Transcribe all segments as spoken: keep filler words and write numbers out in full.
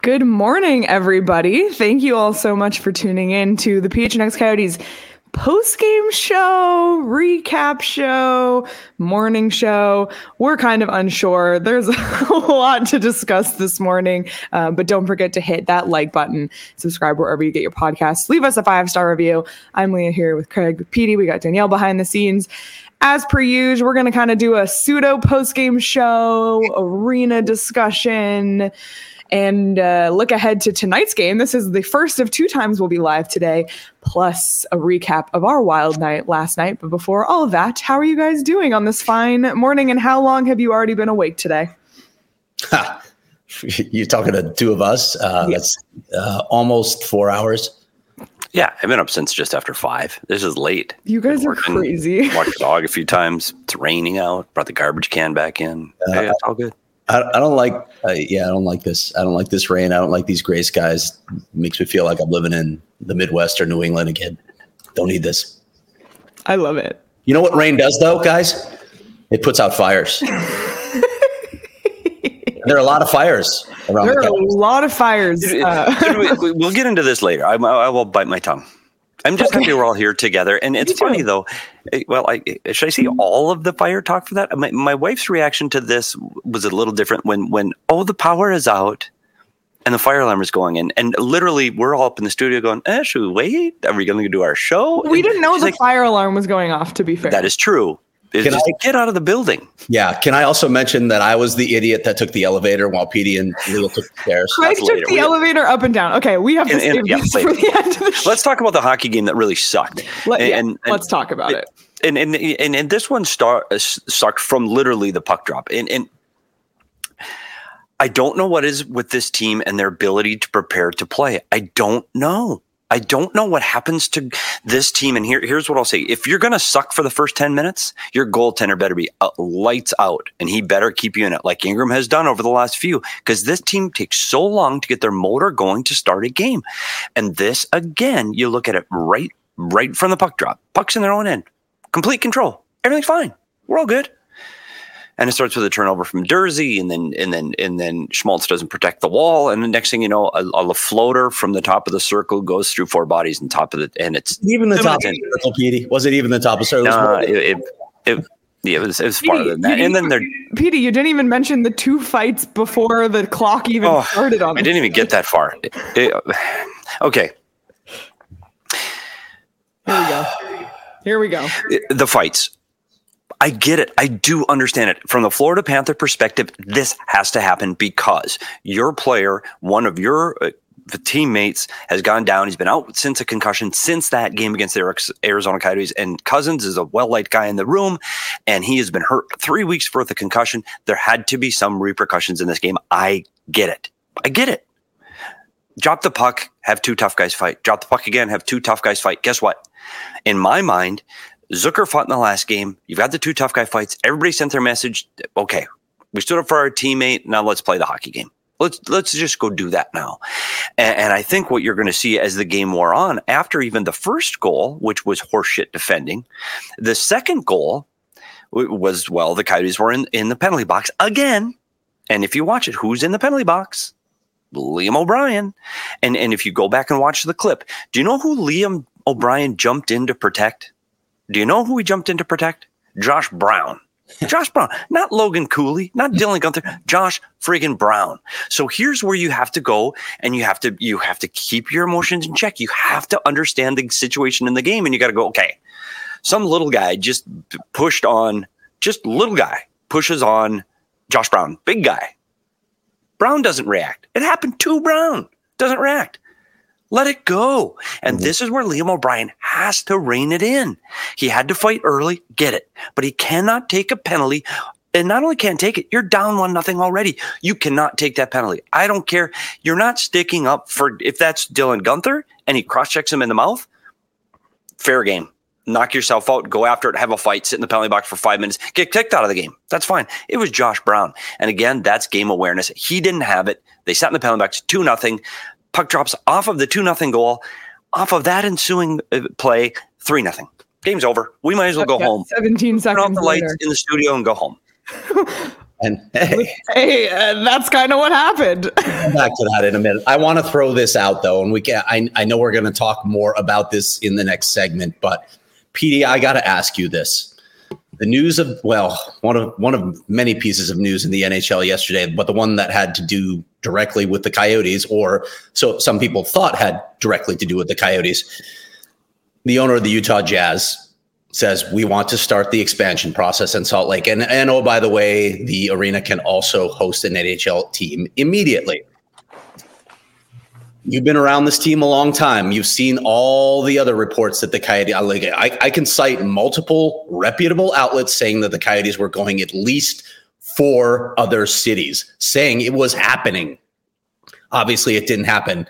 Good morning, everybody. Thank you all so much for tuning in to the P H N X Coyotes post-game show, recap show, morning show. We're kind of unsure. There's a lot to discuss this morning, um, but don't forget to hit that like button, subscribe wherever you get your podcasts, leave us a five-star review. I'm Leah here with Craig, with Petey. We got Danielle behind the scenes. As per usual, we're going to kind of do a pseudo post-game show, arena discussion, and uh, look ahead to tonight's game. This is the first of two times we'll be live today, plus a recap of our wild night last night. But before all of that, how are you guys doing on this fine morning, and how long have you already been awake today? Ha. You're talking to two of us. Uh, yeah. That's uh, almost four hours. Yeah, I've been up since just after five. This is late. You guys are working, crazy. Walked the dog a few times. It's raining out. Brought the garbage can back in. Uh, yeah, it's all good. I, I don't like, uh, yeah, I don't like this. I don't like this rain. I don't like these gray skies. It makes me feel like I'm living in the Midwest or New England again. Don't need this. I love it. You know what rain does, though, guys? It puts out fires. There are a lot of fires around. There the are a lot of fires. Uh, we, we'll get into this later. I, I will bite my tongue. I'm just happy we're all here together. And it's funny, though. Well, I, should I see all of the fire talk for that? My, my wife's reaction to this was a little different when, when, oh, the power is out and the fire alarm is going in. And literally, we're all up in the studio going, eh, should we wait? Are we going to do our show? We and didn't know the like, fire alarm was going off, to be fair. That is true. It's Can just I, get out of the building. Yeah. Can I also mention that I was the idiot that took the elevator while Petey and Leah took the stairs? Craig took later. the we elevator have, up and down. Okay, we have to and, save and, yeah, this for the end of the show. Let's talk about the hockey game that really sucked. Let, and, yeah, and, let's talk about it. And and and, and this one star, uh, sucked from literally the puck drop. And, and I don't know what is with this team and their ability to prepare to play. I don't know. I don't know what happens to this team. And here, here's what I'll say. If you're going to suck for the first ten minutes, your goaltender better be uh, lights out, and he better keep you in it like Ingram has done over the last few, because this team takes so long to get their motor going to start a game. And this, again, you look at it right, right from the puck drop. Puck's in their own end. Complete control. Everything's fine. We're all good. And it starts with a turnover from Dursey, and then and then and then Schmaltz doesn't protect the wall, and the next thing you know, a, a floater from the top of the circle goes through four bodies and top of the, and it's even the top of the circle, Petey. Was it even the top of the circle? No, it, it, it, yeah, it was it was farther than that. And then they're Petey, you didn't even mention the two fights before the clock even oh, started on. I didn't even get that far. It, it, okay. Here we go. Here we go. The fights. I get it. I do understand it. From the Florida Panther perspective, this has to happen because your player, one of your uh, teammates, has gone down. He's been out since a concussion, since that game against the Arizona Coyotes. And Cousins is a well-liked guy in the room, and he has been hurt three weeks worth of concussion. There had to be some repercussions in this game. I get it. I get it. Drop the puck, have two tough guys fight. Drop the puck again, have two tough guys fight. Guess what? In my mind, Zucker fought in the last game. You've got the two tough guy fights. Everybody sent their message. Okay, we stood up for our teammate. Now let's play the hockey game. Let's let's just go do that now. And, and I think what you're going to see as the game wore on, after even the first goal, which was horseshit defending, the second goal was, well, the Coyotes were in, in the penalty box again. And if you watch it, who's in the penalty box? Liam O'Brien. And, and if you go back and watch the clip, do you know who Liam O'Brien jumped in to protect? Do you know who he jumped in to protect? Josh Brown. Josh Brown. Not Logan Cooley, not Dylan Gunther, Josh friggin' Brown. So here's where you have to go, and you have to you have to keep your emotions in check. You have to understand the situation in the game, and you got to go, okay, some little guy just pushed on, just little guy pushes on Josh Brown, big guy. Brown doesn't react. It happened to Brown. Doesn't react. Let it go. And mm-hmm. This is where Liam O'Brien has to rein it in. He had to fight early, get it. But he cannot take a penalty. And not only can't take it, you're down one nothing already. You cannot take that penalty. I don't care. You're not sticking up for, if that's Dylan Gunther and he cross-checks him in the mouth, fair game. Knock yourself out, go after it, have a fight, sit in the penalty box for five minutes, get kicked out of the game. That's fine. It was Josh Brown. And again, that's game awareness. He didn't have it. They sat in the penalty box, two nothing. Puck drops off of the two nothing goal. Off of that ensuing play, three nothing. Game's over. We might as well go yeah, home. seventeen seconds Turn off the lights later. in the studio and go home. And hey, hey, uh, that's kind of what happened. Come back to that in a minute. I want to throw this out though, and we can. I, I know we're going to talk more about this in the next segment, but P D, I got to ask you this: the news of well, one of one of many pieces of news in the N H L yesterday, but the one that had to do directly with the Coyotes, or so some people thought had directly to do with the Coyotes. The owner of the Utah Jazz says we want to start the expansion process in Salt Lake. And, and oh, by the way, the arena can also host an N H L team immediately. You've been around this team a long time. You've seen all the other reports that the Coyotes, I, I can cite multiple reputable outlets saying that the Coyotes were going at least four other cities, saying it was happening. Obviously, it didn't happen.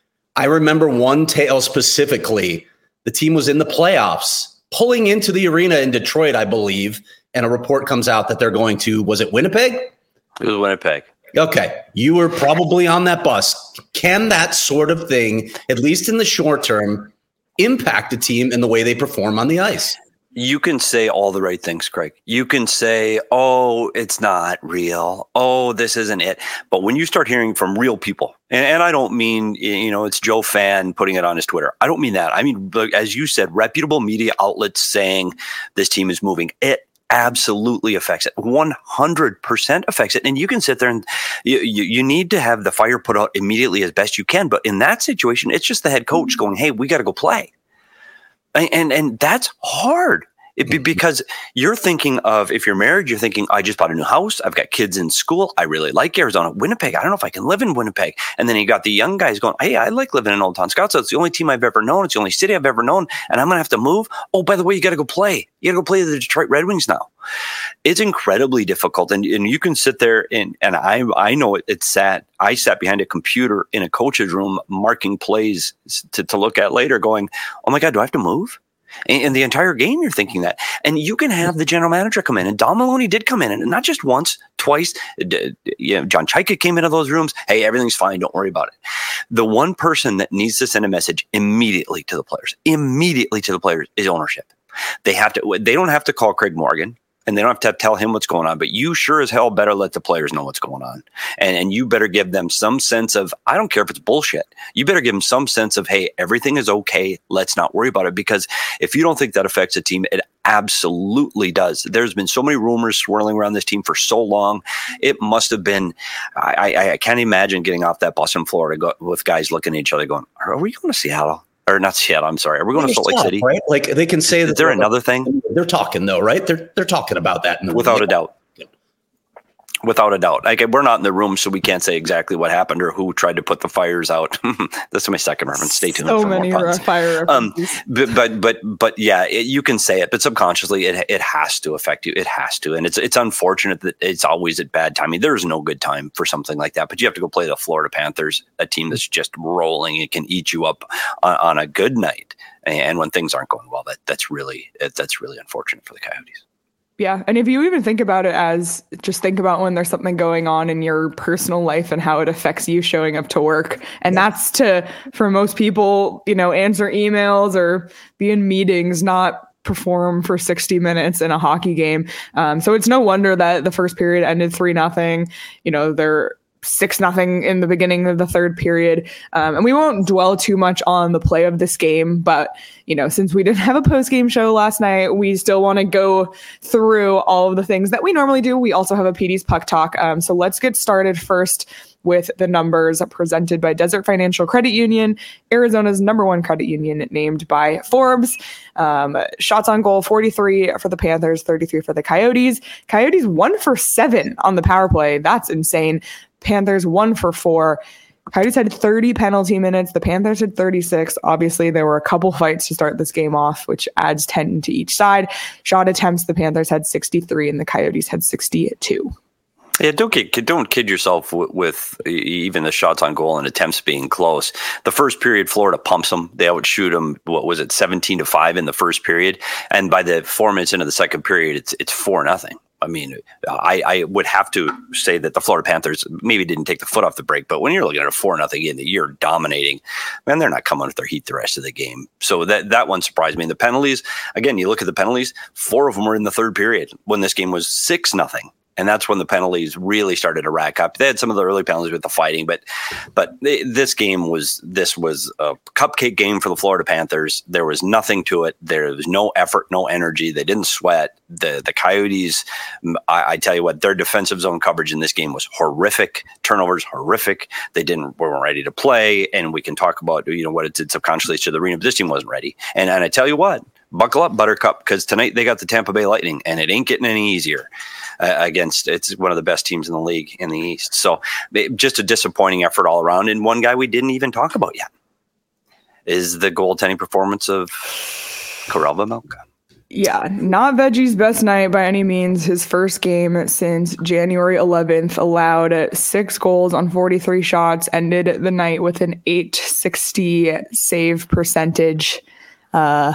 I remember one tale specifically. The team was in the playoffs, pulling into the arena in Detroit, I believe, and a report comes out that they're going to, was it Winnipeg? It was Winnipeg. Okay. You were probably on that bus. Can that sort of thing, at least in the short term, impact a team in the way they perform on the ice? You can say all the right things, Craig. You can say, oh, it's not real. Oh, this isn't it. But when you start hearing from real people, and, and I don't mean, you know, it's Joe Fan putting it on his Twitter. I don't mean that. I mean, as you said, reputable media outlets saying this team is moving. It absolutely affects it. one hundred percent affects it. And you can sit there and you, you, you need to have the fire put out immediately as best you can. But in that situation, it's just the head coach going, hey, we got to go play. And, and and that's hard. It be because you're thinking of, if you're married, you're thinking, I just bought a new house. I've got kids in school. I really like Arizona. Winnipeg, I don't know if I can live in Winnipeg. And then you got the young guys going, hey, I like living in Old Town Scouts. It's the only team I've ever known. It's the only city I've ever known. And I'm going to have to move. Oh, by the way, you got to go play. You got to go play the Detroit Red Wings now. It's incredibly difficult. And, and you can sit there and, and I I know it, it's sad. I sat behind a computer in a coach's room marking plays to, to look at later going, oh my God, do I have to move? And, and the entire game, you're thinking that. And you can have the general manager come in. And Don Maloney did come in. And not just once, twice. D- you know, John Chayka came into those rooms. Hey, everything's fine. Don't worry about it. The one person that needs to send a message immediately to the players, immediately to the players, is ownership. They have to. They don't have to call Craig Morgan. And they don't have to tell him what's going on, but you sure as hell better let the players know what's going on. And, and you better give them some sense of, I don't care if it's bullshit. You better give them some sense of, hey, everything is okay. Let's not worry about it. Because if you don't think that affects a team, it absolutely does. There's been so many rumors swirling around this team for so long. It must have been, I, I, I can't imagine getting off that bus in Florida go, with guys looking at each other going, are we going to Seattle? Or not Seattle, I'm sorry. Are we going to Salt Lake City? Right? Like they can say that. Is there another thing? They're talking though, right? They're they're talking about that. In the Without a doubt. Without a doubt. Like, we're not in the room, so we can't say exactly what happened or who tried to put the fires out. That's my second reference. Stay tuned. So for many more fire um, but, but, but, but yeah, it, you can say it, but subconsciously it it has to affect you. It has to. And it's, it's unfortunate that it's always at bad timing. There's no good time for something like that, but you have to go play the Florida Panthers, a team that's just rolling. It can eat you up on, on a good night. And when things aren't going well, that that's really, that's really unfortunate for the Coyotes. Yeah. And if you even think about it as just think about when there's something going on in your personal life and how it affects you showing up to work. And that's to, for most people, you know, answer emails or be in meetings, not perform for sixty minutes in a hockey game. Um, so it's no wonder that the first period ended three nothing. You know, they're six nothing in the beginning of the third period. Um, and we won't dwell too much on the play of this game, but, you know, since we didn't have a post-game show last night, we still want to go through all of the things that we normally do. We also have a P D's Puck Talk. Um, so let's get started first with the numbers presented by Desert Financial Credit Union, Arizona's number one credit union, named by Forbes. Um, shots on goal, forty-three for the Panthers, thirty-three for the Coyotes. Coyotes one for seven on the power play. That's insane. Panthers one for four. Coyotes had thirty penalty minutes. The Panthers had thirty-six. Obviously, there were a couple fights to start this game off, which adds ten to each side. Shot attempts, the Panthers had sixty-three and the Coyotes had sixty-two. Yeah, don't kid, don't kid yourself with, with even the shots on goal and attempts being close. The first period, Florida pumps them. They outshoot them. What was it, seventeen to five in the first period? And by the four minutes into the second period, it's it's four nothing. I mean, I, I would have to say that the Florida Panthers maybe didn't take the foot off the brake, but when you're looking at a four nothing in the year dominating, man, they're not coming with their heat the rest of the game. So that that one surprised me. And the penalties, again, you look at the penalties, four of them were in the third period when this game was six nothing. And that's when the penalties really started to rack up. They had some of the early penalties with the fighting, but but this game was this was a cupcake game for the Florida Panthers. There was nothing to it. There was no effort, no energy. They didn't sweat. The the Coyotes, I, I tell you what, their defensive zone coverage in this game was horrific. Turnovers horrific. They didn't weren't ready to play. And we can talk about you know what it did subconsciously to the arena, but this team wasn't ready. And and I tell you what, buckle up, Buttercup, because tonight they got the Tampa Bay Lightning, and it ain't getting any easier. Uh, against it's one of the best teams in the league in the East. So it, just a disappointing effort all around. And one guy we didn't even talk about yet is the goaltending performance of Karel Vejmelka. Yeah, not Veggie's best night by any means. His first game since January eleventh, allowed six goals on forty-three shots, ended the night with an eight sixty save percentage. Uh,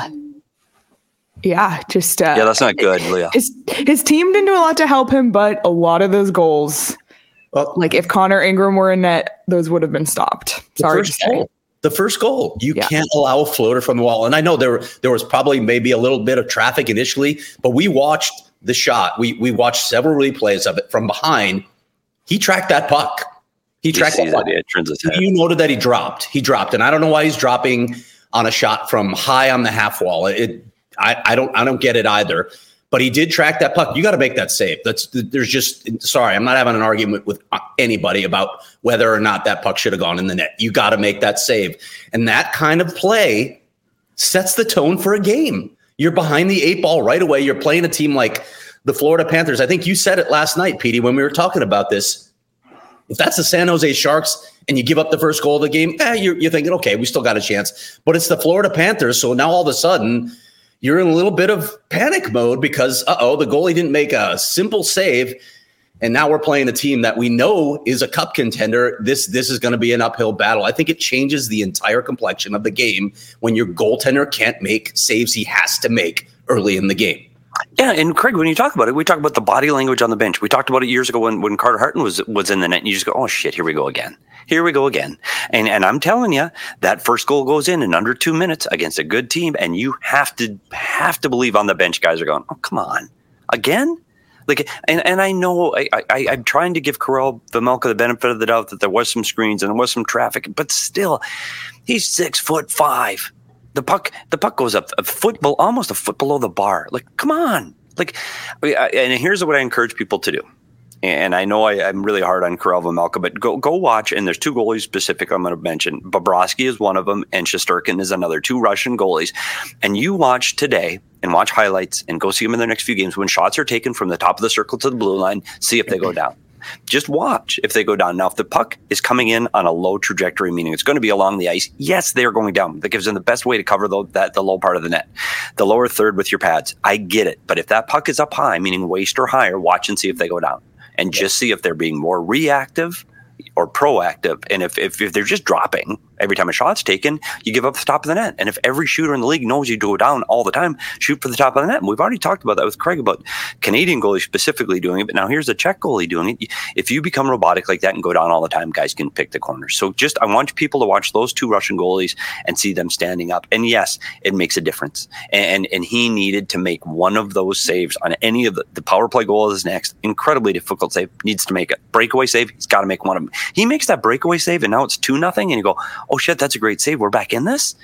Yeah, just uh, yeah, that's not good, Leah. His his team didn't do a lot to help him, but a lot of those goals, well, like if Connor Ingram were in net, those would have been stopped. Sorry to say. Goal, the first goal, you yeah. can't allow a floater from the wall. And I know there there was probably maybe a little bit of traffic initially, but we watched the shot. We we watched several replays of it from behind. He tracked that puck. He tracked that puck. It turns his head. You noted that he dropped. He dropped, and I don't know why he's dropping on a shot from high on the half wall. It. I, I don't I don't get it either, but he did track that puck. You got to make that save. That's there's just sorry, I'm not having an argument with anybody about whether or not that puck should have gone in the net. You got to make that save, and that kind of play sets the tone for a game. You're behind the eight ball right away. You're playing a team like the Florida Panthers. I think you said it last night, Petey, when we were talking about this. If that's the San Jose Sharks and you give up the first goal of the game, eh, you're, you're thinking, okay, we still got a chance. But it's the Florida Panthers, so now all of a sudden you're in a little bit of panic mode because, uh-oh, the goalie didn't make a simple save, and now we're playing a team that we know is a cup contender. This this is going to be an uphill battle. I think it changes the entire complexion of the game when your goaltender can't make saves he has to make early in the game. Yeah, and Craig, when you talk about it, we talk about the body language on the bench. We talked about it years ago when, when Carter Harton was was in the net, and you just go, oh, shit, here we go again. Here we go again. And and I'm telling you, that first goal goes in in under two minutes against a good team, and you have to have to believe on the bench guys are going, oh, come on, again? Like, and, and I know I, I, I'm trying to give Karel Vejmelka the benefit of the doubt that there was some screens and there was some traffic, but still, he's six foot five. The puck, the puck goes up a foot, almost a foot below the bar. Like, come on! Like, and here's what I encourage people to do. And I know I, I'm really hard on Karel Vejmelka, but go go watch. And there's two goalies specific I'm going to mention. Bobrovsky is one of them, and Shesterkin is another. Two Russian goalies. And you watch today and watch highlights and go see them in their next few games when shots are taken from the top of the circle to the blue line. See if they go down. Just watch if they go down. Now, if the puck is coming in on a low trajectory, meaning it's going to be along the ice, yes, they are going down. That gives them the best way to cover the, that the low part of the net, the lower third with your pads. I get it. But if that puck is up high, meaning waist or higher, watch and see if they go down. And just see if they're being more reactive or proactive. And if, if if they're just dropping every time a shot's taken, you give up the top of the net. And if every shooter in the league knows you go down all the time, shoot for the top of the net. And we've already talked about that with Craig about Canadian goalies specifically doing it. But now here's a Czech goalie doing it. If you become robotic like that and go down all the time, guys can pick the corners. So just I want people to watch those two Russian goalies and see them standing up. And yes, it makes a difference. And and he needed to make one of those saves on any of the, the power play goal is next. Incredibly difficult save. Needs to make it. Breakaway save. He's got to make one of them. He makes that breakaway save and now it's two nothing. And you go, oh shit, that's a great save. We're back in this.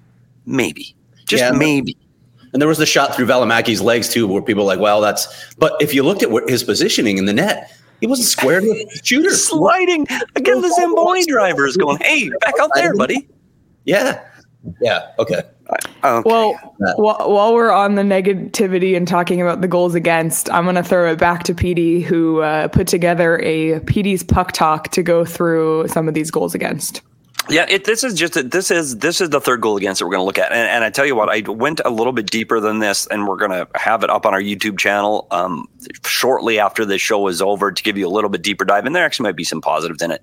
Maybe, just yeah, maybe. And there was the shot through Valimaki's legs too, where people are like, well, that's, but if you looked at his positioning in the net, he wasn't squared with the shooter. Sliding again. The Zamboni driver is going, hey, back out there, buddy. Yeah. Yeah. Okay. Okay. Well, while, while we're on the negativity and talking about the goals against, I'm going to throw it back to Petey, who uh, put together a Petey's Puck Talk to go through some of these goals against. Yeah, it, this is just a, this is this is the third goal against that we're going to look at, and, and I tell you what, I went a little bit deeper than this, and we're going to have it up on our YouTube channel um, shortly after this show is over to give you a little bit deeper dive, and there actually might be some positives in it.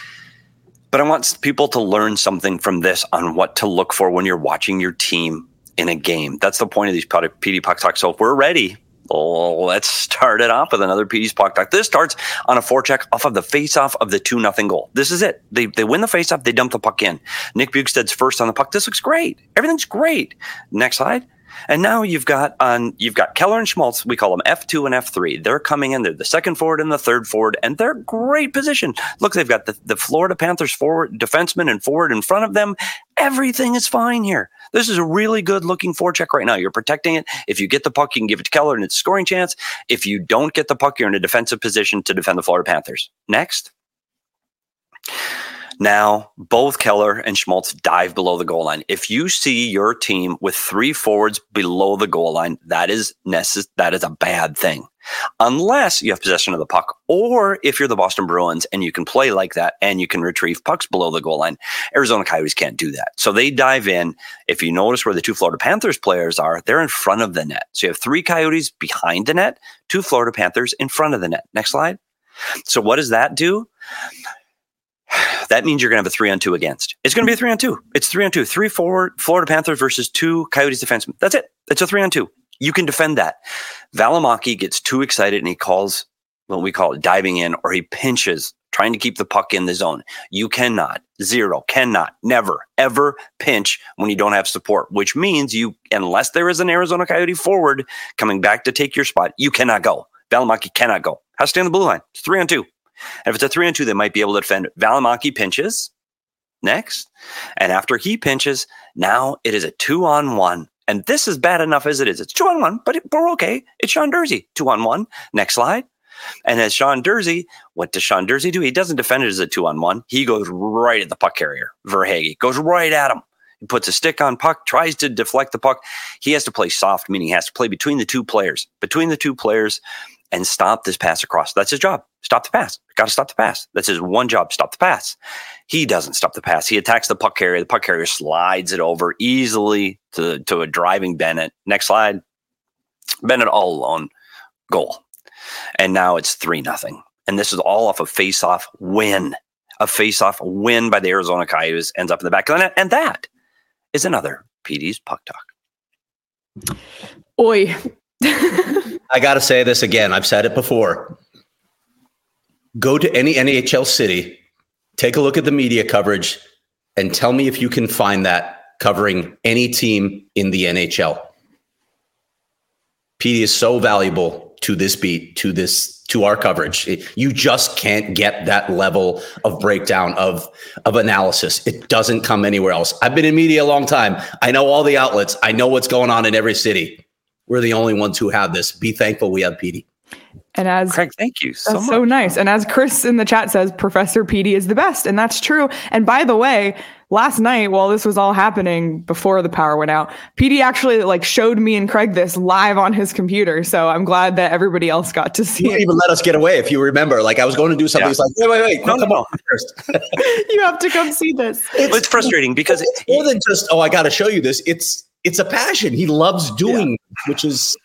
But I want people to learn something from this on what to look for when you're watching your team in a game. That's the point of these P D Puck Talks. So if we're ready, oh, let's start it off with another P D's Puck Talk. This starts on a forecheck off of the face-off of the two nothing goal. This is it. They they win the face-off. They dump the puck in. Nick Bjugstad's first on the puck. This looks great. Everything's great. Next slide. And now you've got on you've got Keller and Schmaltz. We call them F two and F three. They're coming in. They're the second forward and the third forward, and they're great position. Look, they've got the, the Florida Panthers forward defenseman and forward in front of them. Everything is fine here. This is a really good looking forecheck right now. You're protecting it. If you get the puck, you can give it to Keller, and it's a scoring chance. If you don't get the puck, you're in a defensive position to defend the Florida Panthers. Next. Now, both Keller and Schmaltz dive below the goal line. If you see your team with three forwards below the goal line, that is necess- that is a bad thing. Unless you have possession of the puck, or if you're the Boston Bruins and you can play like that and you can retrieve pucks below the goal line. Arizona Coyotes can't do that. So they dive in. If you notice where the two Florida Panthers players are, they're in front of the net. So you have three Coyotes behind the net, two Florida Panthers in front of the net. Next slide. So what does that do? That means you're going to have a three on two against. It's going to be a three on two. It's three on two. Three forward Florida Panthers versus two Coyotes defensemen. That's it. It's a three on two. You can defend that. Valimaki gets too excited and he calls what we call it diving in, or he pinches, trying to keep the puck in the zone. You cannot, zero, cannot, never, ever pinch when you don't have support, which means you, unless there is an Arizona Coyote forward coming back to take your spot, you cannot go. Valimaki cannot go. Has to stay on the blue line. It's three on two. And if it's a three on two, they might be able to defend. Valimaki pinches next. And after he pinches, now it is a two on one. And this is bad enough as it is. It's two on one, but it, we're okay. It's Sean Durzi, two on one. Next slide. And as Sean Durzi, what does Sean Durzi do? He doesn't defend it as a two on one. He goes right at the puck carrier, Verhaeghe. Goes right at him. He puts a stick on puck, tries to deflect the puck. He has to play soft, meaning he has to play between the two players. Between the two players. And stop this pass across. That's his job. Stop the pass. Got to stop the pass. That's his one job. Stop the pass. He doesn't stop the pass. He attacks the puck carrier. The puck carrier slides it over easily to, to a driving Bennett. Next slide. Bennett all alone. Goal. And now it's three nothing. And this is all off a face-off win. A face-off win by the Arizona Coyotes ends up in the back of the net. And that is another P D's Puck Talk. Oi. I got to say this again. I've said it before. Go to any N H L city, take a look at the media coverage, and tell me if you can find that covering any team in the N H L. P D is so valuable to this beat, to this, to our coverage. It, you just can't get that level of breakdown of, of analysis. It doesn't come anywhere else. I've been in media a long time. I know all the outlets. I know what's going on in every city. We're the only ones who have this. Be thankful we have P D. And as Craig, thank you so that's much. So nice. And as Chris in the chat says, Professor P D is the best. And that's true. And by the way, last night, while this was all happening before the power went out, P D actually like showed me and Craig this live on his computer. So I'm glad that everybody else got to see you it. didn't even let us get away, if you remember. Like I was going to do something. Yeah. It's like, wait, wait, wait. No, come no, on first. You have to come see this. It's, it's frustrating because it's more than just, oh, I got to show you this. It's it's a passion. He loves doing, yeah. which is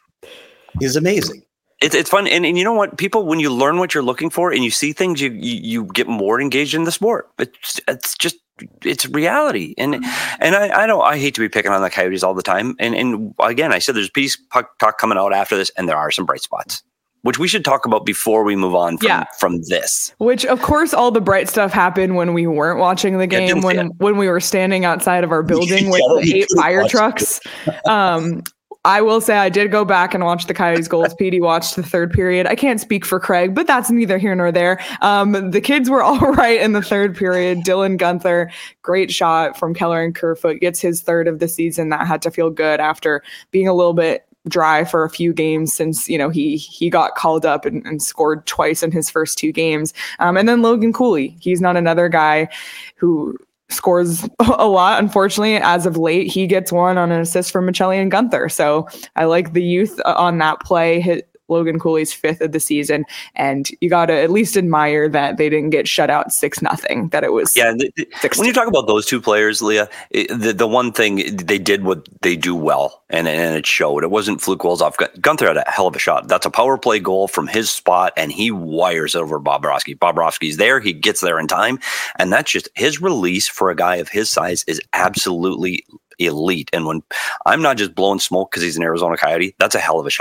is amazing. It's it's fun, and, and you know what? People, when you learn what you're looking for and you see things, you you, you get more engaged in the sport. It's it's just it's reality, and and I, I know I hate to be picking on the Coyotes all the time, and and again I said there's P D's Puck Talk coming out after this, and there are some bright spots, which we should talk about before we move on from, yeah. from this. Which, of course, all the bright stuff happened when we weren't watching the game, yeah, when when we were standing outside of our building with the eight fire trucks. Um, I will say I did go back and watch the Coyotes goals. P D watched the third period. I can't speak for Craig, but that's neither here nor there. Um, the kids were all right in the third period. Dylan Guenther, great shot from Keller and Kerfoot, gets his third of the season. That had to feel good after being a little bit dry for a few games since, you know, he he got called up and, and scored twice in his first two games. Um, and then Logan Cooley. He's not another guy who scores a lot, unfortunately. As of late, he gets one on an assist from Michelli and Guenther. So I like the youth on that play. Hit Logan Cooley's fifth of the season, and you got to at least admire that they didn't get shut out six nothing. That it was yeah. The, the, when you talk about those two players, Leah, it, the the one thing they did what they do well, and and it showed. It wasn't fluke goals off. Guenther had a hell of a shot. That's a power play goal from his spot, and he wires over Bobrovsky. Bobrovsky's there. He gets there in time, and that's just his release for a guy of his size is absolutely elite. And when I'm not just blowing smoke because he's an Arizona Coyote, that's a hell of a shot.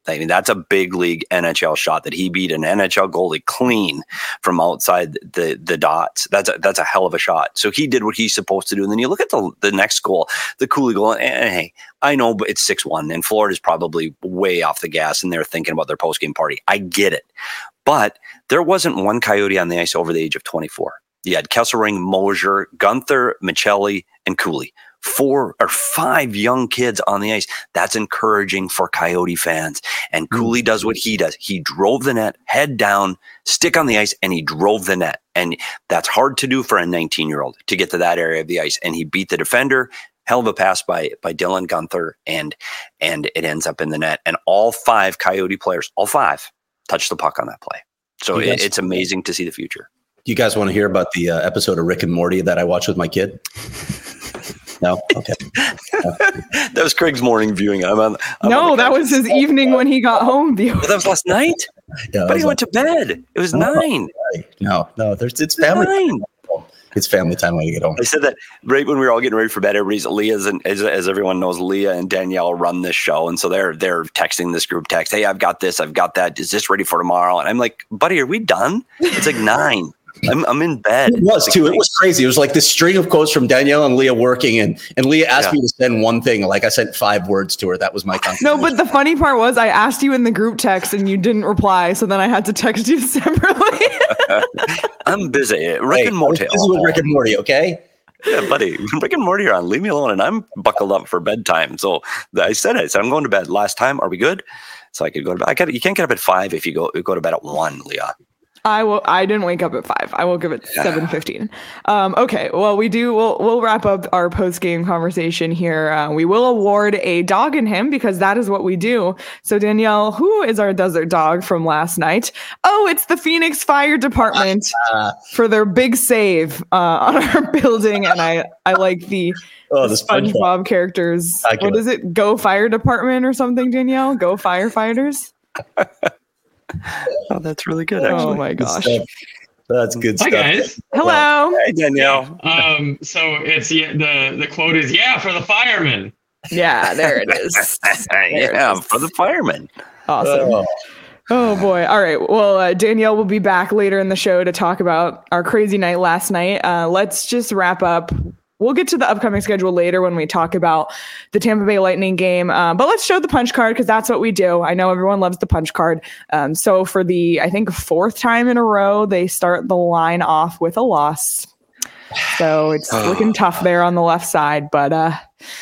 I mean, that's a big league N H L shot that he beat an N H L goalie clean from outside the the dots. That's a, that's a hell of a shot. So he did what he's supposed to do. And then you look at the the next goal, the Cooley goal, and, and hey, I know, but it's six one, and Florida's probably way off the gas, and they're thinking about their post-game party. I get it. But there wasn't one Coyote on the ice over the age of twenty-four. You had Kesselring, Mosier, Gunther, Michelli, and Cooley. Four or five young kids on the ice. That's encouraging for Coyote fans. And Cooley does what he does. He drove the net, head down, stick on the ice, and he drove the net. And that's hard to do for a nineteen-year-old to get to that area of the ice. And he beat the defender. Hell of a pass by by Dylan Gunther, and and it ends up in the net. And all five Coyote players, all five, touched the puck on that play. So it, it's amazing to see the future. Do you guys want to hear about the uh, episode of Rick and Morty that I watched with my kid? No? Okay. No. That was Craig's morning viewing. I'm on, I'm no, on that was his evening when he got home. Well, that was last night? Yeah, but he went like, to bed. It was no, nine. No, no, there's, it's family nine. time. It's family time when you get home. I said that right when we were all getting ready for bed. Everybody's Leah's, and as, as everyone knows, Leah and Danielle run this show, and so they're they're texting this group text. Hey, I've got this, I've got that. Is this ready for tomorrow? And I'm like, buddy, are we done? It's like nine. I'm I'm in bed. It was too. It was crazy. It was like this string of quotes from Danielle and Leah working, and and Leah asked yeah. me to send one thing. Like I sent five words to her. That was my contribution. No, but the funny part was I asked you in the group text and you didn't reply. So then I had to text you separately. I'm busy. Rick hey, and Morty. This is with Rick and Morty, okay? Yeah, buddy. Rick and Morty are on. Leave me alone. And I'm buckled up for bedtime. So I said it. I said I'm going to bed. Last time, are we good? So I could go to bed. I got. You can't get up at five if you go you go to bed at one, Leah. I will. I didn't wake up at five. I woke up at seven fifteen. Um, okay. Well, we do. We'll we'll wrap up our post game conversation here. Uh, we will award a dog in him because that is what we do. So Danielle, who is our desert dog from last night? Oh, it's the Phoenix Fire Department uh, for their big save uh, on our building, and I I like the. Oh, the SpongeBob, SpongeBob characters. What is it? Go Fire Department or something, Danielle? Go Firefighters. Oh, that's really good. Actually. Oh my gosh, that's good stuff. Hi guys. Hello. Hey Danielle. Um. So it's yeah, the the quote is yeah for the firemen. Yeah, there it is. There yeah, it is. For the firemen. Awesome. Oh. Oh boy. All right. Well, uh, Danielle will be back later in the show to talk about our crazy night last night. Uh, let's just wrap up. We'll get to the upcoming schedule later when we talk about the Tampa Bay Lightning game. Um, but let's show the punch card because that's what we do. I know everyone loves the punch card. Um, so for the, I think, fourth time in a row, they start the line off with a loss. So it's looking tough there on the left side. But uh,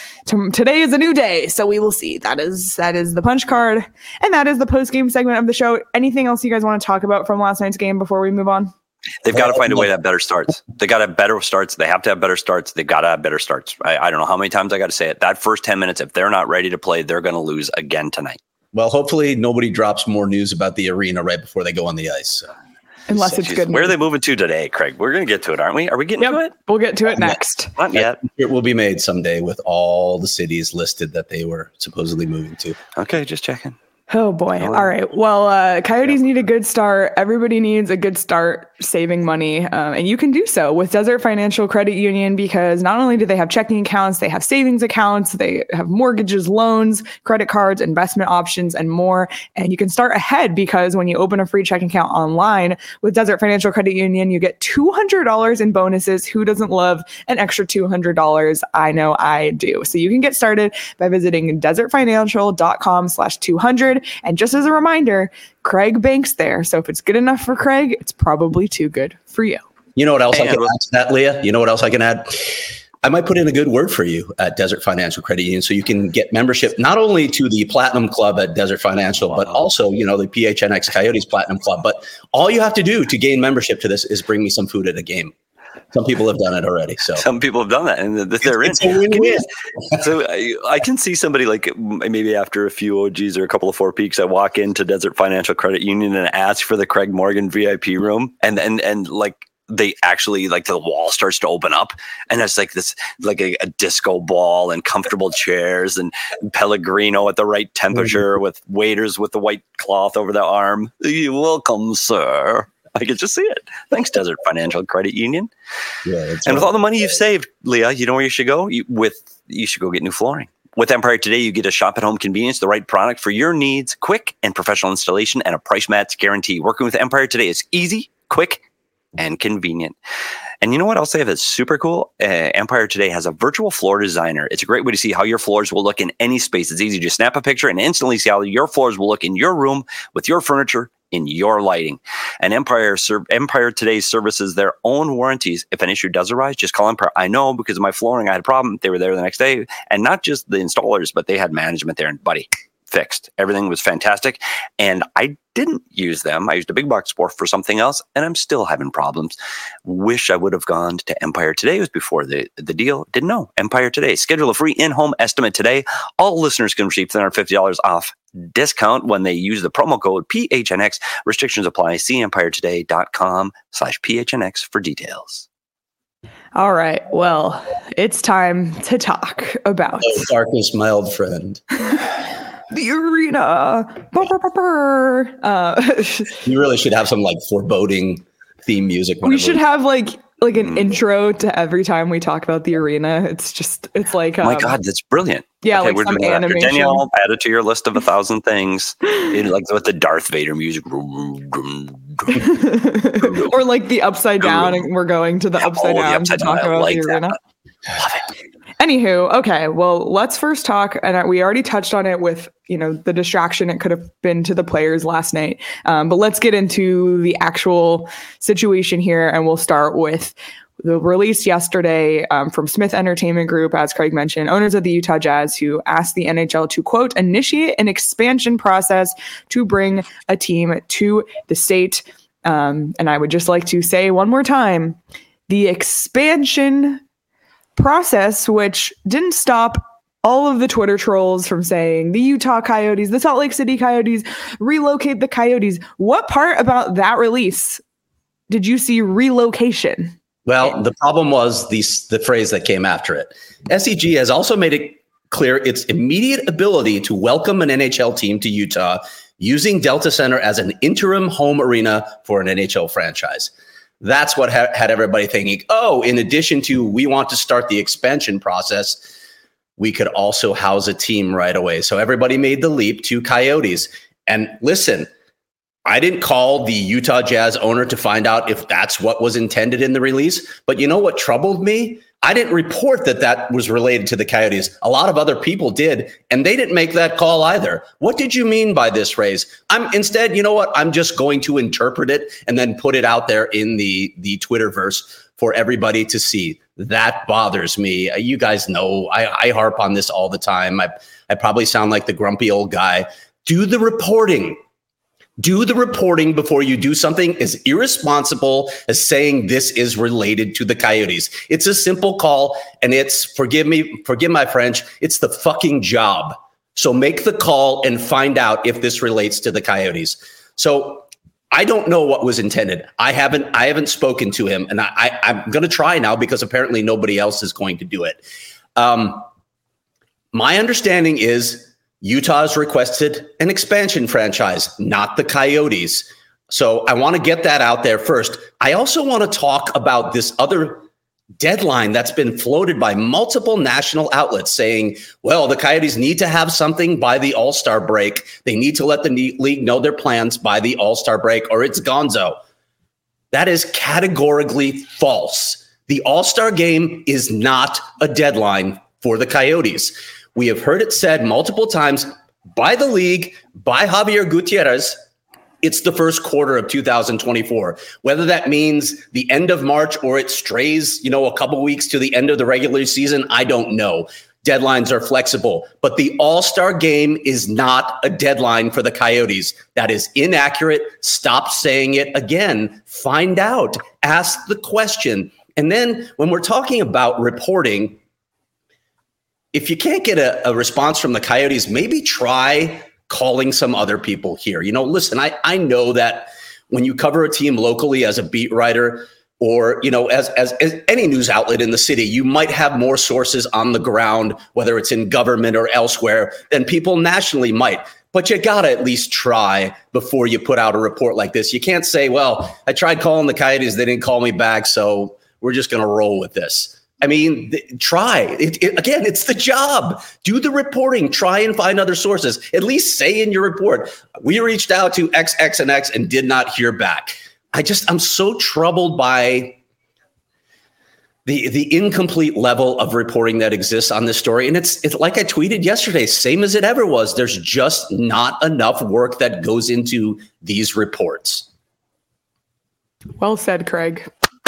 t- today is a new day. So we will see. That is that is the punch card. And that is the post-game segment of the show. Anything else you guys want to talk about from last night's game before we move on? They've got to find a way to have better starts. They got to have better starts. They have to have better starts. They've got to have better starts. I, I don't know how many times I got to say it. That first ten minutes, if they're not ready to play, they're going to lose again tonight. Well, hopefully nobody drops more news about the arena right before they go on the ice. So. Unless so, it's good. Where news. Are they moving to today, Craig? We're going to get to it, aren't we? Are we getting yep. to it? We'll get to it next. Not yet. It will be made someday with all the cities listed that they were supposedly moving to. Okay, just checking. Oh boy. All right. Well, uh, Coyotes need a good start. Everybody needs a good start saving money. Um, and you can do so with Desert Financial Credit Union because not only do they have checking accounts, they have savings accounts, they have mortgages, loans, credit cards, investment options, and more. And you can start ahead because when you open a free checking account online with Desert Financial Credit Union, you get two hundred dollars in bonuses. Who doesn't love an extra two hundred dollars? I know I do. So you can get started by visiting desertfinancial.com slash 200. And just as a reminder, Craig banks there. So if it's good enough for Craig, it's probably too good for you. You know what else and I can add to that, Leah? You know what else I can add? I might put in a good word for you at Desert Financial Credit Union so you can get membership not only to the Platinum Club at Desert Financial, but also, you know, the P H N X Coyotes Platinum Club. But all you have to do to gain membership to this is bring me some food at a game. Some people have done it already. So some people have done that, and they're it's, in. It's you, so I, I can see somebody like maybe after a few O Gs or a couple of four peaks, I walk into Desert Financial Credit Union and ask for the Craig Morgan V I P room, and and and like they actually like the wall starts to open up, and it's like this like a, a disco ball and comfortable chairs and Pellegrino at the right temperature mm-hmm. with waiters with the white cloth over the arm. You're welcome, sir. I could just see it. Thanks, Desert Financial Credit Union. Yeah, and right. With all the money you've saved, Leah, you know where you should go? You, with you should go get new flooring With Empire Today, you get a shop at home convenience, the right product for your needs, quick and professional installation, and a price match guarantee. Working with Empire Today is easy, quick, and convenient. And you know what else they have that's super cool? Uh, Empire Today has a virtual floor designer. It's a great way to see how your floors will look in any space. It's easy to snap a picture and instantly see how your floors will look in your room with your furniture, in your lighting. And Empire Empire Today services their own warranties. If an issue does arise, just call Empire. I know because of my flooring, I had a problem. They were there the next day. And not just the installers, but they had management there. And buddy, fixed. Everything was fantastic. And I didn't use them. I used a big box store for something else, and I'm still having problems. Wish I would have gone to Empire Today. It was before the, the deal. Didn't know. Empire Today. Schedule a free in-home estimate today. All listeners can receive three hundred fifty dollars off discount when they use the promo code P H N X. Restrictions apply. See empiretoday.com slash PHNX for details. All right. Well, it's time to talk about oh, darkest mild friend. The arena. Burr, burr, burr, burr. Uh, you really should have some like foreboding theme music. We should have like like an mm. intro to every time we talk about the arena. It's just it's like um, oh my God, that's brilliant. Yeah, okay, like some animation. Danielle, add it to your list of a thousand things. In, like with the Darth Vader music. Or like the upside down, and we're going to the upside oh, down the upside to talk down. about like the arena. That. Love it. Anywho, okay, well, let's first talk, and we already touched on it with, you know, the distraction it could have been to the players last night. Um, but let's get into the actual situation here, and we'll start with the release yesterday um, from Smith Entertainment Group, as Craig mentioned, owners of the Utah Jazz, who asked the N H L to, quote, initiate an expansion process to bring a team to the state. Um, and I would just like to say one more time, the expansion process, which didn't stop all of the Twitter trolls from saying the Utah Coyotes, the Salt Lake City Coyotes, relocate the Coyotes. What part about that release did you see relocation? Well, the problem was the, the phrase that came after it. S E G has also made it clear its immediate ability to welcome an N H L team to Utah using Delta Center as an interim home arena for an N H L franchise. That's what ha- had everybody thinking, oh, in addition to we want to start the expansion process, we could also house a team right away. So everybody made the leap to Coyotes. And listen, I didn't call the Utah Jazz owner to find out if that's what was intended in the release. But you know what troubled me? I didn't report that that was related to the Coyotes. A lot of other people did, and they didn't make that call either. What did you mean by this, Rays? I'm instead, you know what? I'm just going to interpret it and then put it out there in the, the Twitterverse for everybody to see. That bothers me. You guys know I, I harp on this all the time. I, I probably sound like the grumpy old guy. Do the reporting. Do the reporting before you do something as irresponsible as saying this is related to the Coyotes. It's a simple call, and it's, forgive me, forgive my French, it's the fucking job. So make the call and find out if this relates to the Coyotes. So I don't know what was intended. I haven't, I haven't spoken to him, and I, I, I'm going to try now because apparently nobody else is going to do it. Um, my understanding is Utah has requested an expansion franchise, not the Coyotes. So I want to get that out there first. I also want to talk about this other deadline that's been floated by multiple national outlets saying, well, the Coyotes need to have something by the All-Star break. They need to let the league know their plans by the All-Star break or it's gonzo. That is categorically false. The All-Star game is not a deadline for the Coyotes. We have heard it said multiple times by the league, by Javier Gutierrez, it's the first quarter of two thousand twenty-four. Whether that means the end of March or it strays, you know, a couple weeks to the end of the regular season, I don't know. Deadlines are flexible, but the All-Star game is not a deadline for the Coyotes. That is inaccurate. Stop saying it again. Find out. Ask the question. And then when we're talking about reporting, if you can't get a, a response from the Coyotes, maybe try calling some other people here. You know, listen, I, I know that when you cover a team locally as a beat writer or, you know, as, as, as any news outlet in the city, you might have more sources on the ground, whether it's in government or elsewhere, than people nationally might. But you got to at least try before you put out a report like this. You can't say, well, I tried calling the Coyotes. They didn't call me back, so we're just going to roll with this. I mean, th- try it, it, again. It's the job. Do the reporting. Try and find other sources. At least say in your report, we reached out to X, X, and X and did not hear back. I just, I'm so troubled by the the incomplete level of reporting that exists on this story. And it's it's like I tweeted yesterday, same as it ever was. There's just not enough work that goes into these reports. Well said, Craig.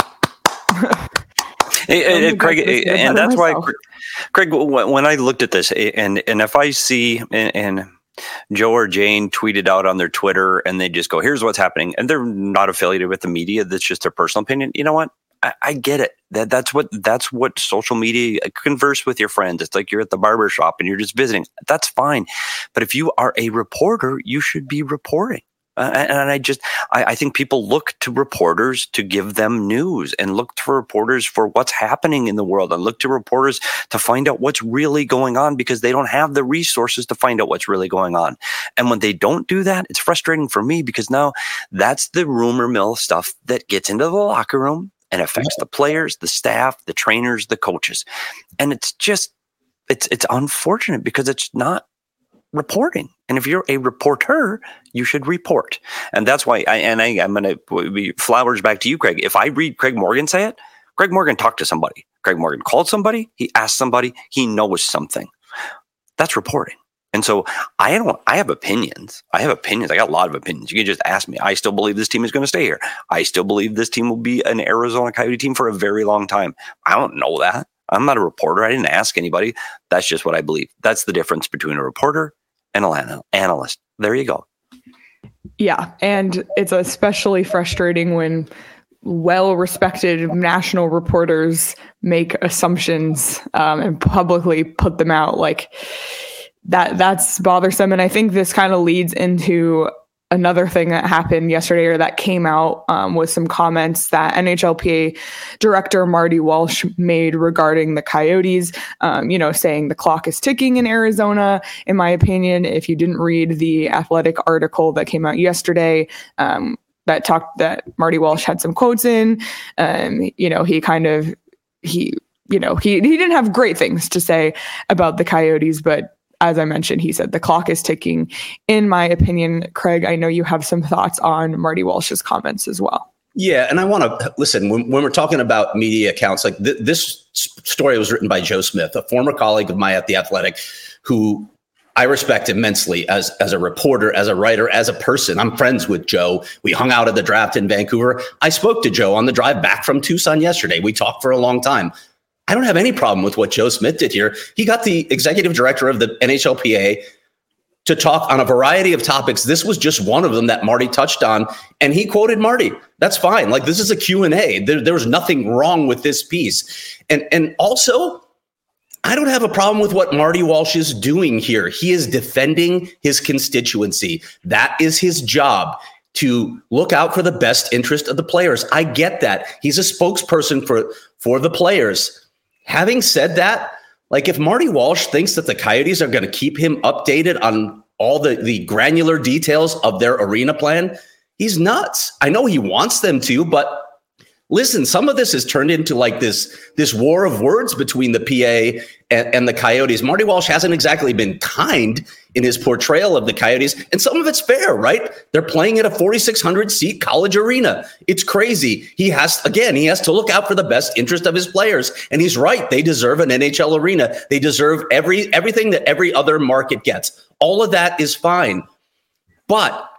Hey, hey, Craig, and that's why, Craig, when I looked at this, and and if I see and, and Joe or Jane tweeted out on their Twitter, and they just go, "Here's what's happening," and they're not affiliated with the media, that's just their personal opinion. You know what? I, I get it. That that's what that's what social media. Converse with your friends. It's like you're at the barber shop and you're just visiting. That's fine. But if you are a reporter, you should be reporting. Uh, and, and I just, I, I think people look to reporters to give them news, and look to reporters for what's happening in the world, and look to reporters to find out what's really going on, because they don't have the resources to find out what's really going on. And when they don't do that, it's frustrating for me, because now that's the rumor mill stuff that gets into the locker room and affects the players, the staff, the trainers, the coaches. And it's just, it's, it's unfortunate, because it's not reporting. And if you're a reporter, you should report. And that's why I, and I, I'm going to be flowers back to you, Craig. If I read Craig Morgan say it, Craig Morgan talked to somebody. Craig Morgan called somebody. He asked somebody. He knows something. That's reporting. And so I don't, I have opinions. I have opinions. I got a lot of opinions. You can just ask me. I still believe this team is going to stay here. I still believe this team will be an Arizona Coyote team for a very long time. I don't know that. I'm not a reporter. I didn't ask anybody. That's just what I believe. That's the difference between a reporter and an analyst. There you go. Yeah. And it's especially frustrating when well-respected national reporters make assumptions um, and publicly put them out. Like that, that's bothersome. And I think this kind of leads into another thing that happened yesterday, or that came out, um, was some comments that N H L P A director Marty Walsh made regarding the Coyotes, um, you know, saying the clock is ticking in Arizona. In my opinion, if you didn't read the Athletic article that came out yesterday, um, that talked that Marty Walsh had some quotes in, um, you know, he kind of, he, you know, he, he didn't have great things to say about the Coyotes, but as I mentioned, he said the clock is ticking. In my opinion, Craig, I know you have some thoughts on Marty Walsh's comments as well. Yeah, and I want to listen when, when we're talking about media accounts. Like th- this story was written by Joe Smith, a former colleague of mine at The Athletic, who I respect immensely as as a reporter, as a writer, as a person. I'm friends with Joe. We hung out at the draft in Vancouver. I spoke to Joe on the drive back from Tucson yesterday. We talked for a long time. I don't have any problem with what Joe Smith did here. He got the executive director of the N H L P A to talk on a variety of topics. This was just one of them that Marty touched on, and he quoted Marty. That's fine. Like, this is a Q and A. There, there was nothing wrong with this piece. And, and also, I don't have a problem with what Marty Walsh is doing here. He is defending his constituency. That is his job, to look out for the best interest of the players. I get that. He's a spokesperson for, for the players. Having said that, like if Marty Walsh thinks that the Coyotes are going to keep him updated on all the, the granular details of their arena plan, he's nuts. I know he wants them to, but listen, some of this has turned into like this, this war of words between the P A and, and the Coyotes. Marty Walsh hasn't exactly been kind in his portrayal of the Coyotes, and some of it's fair, right? They're playing at a forty-six hundred seat college arena. It's crazy. He has, again, he has to look out for the best interest of his players, and he's right. They deserve an N H L arena. They deserve every everything that every other market gets. All of that is fine, but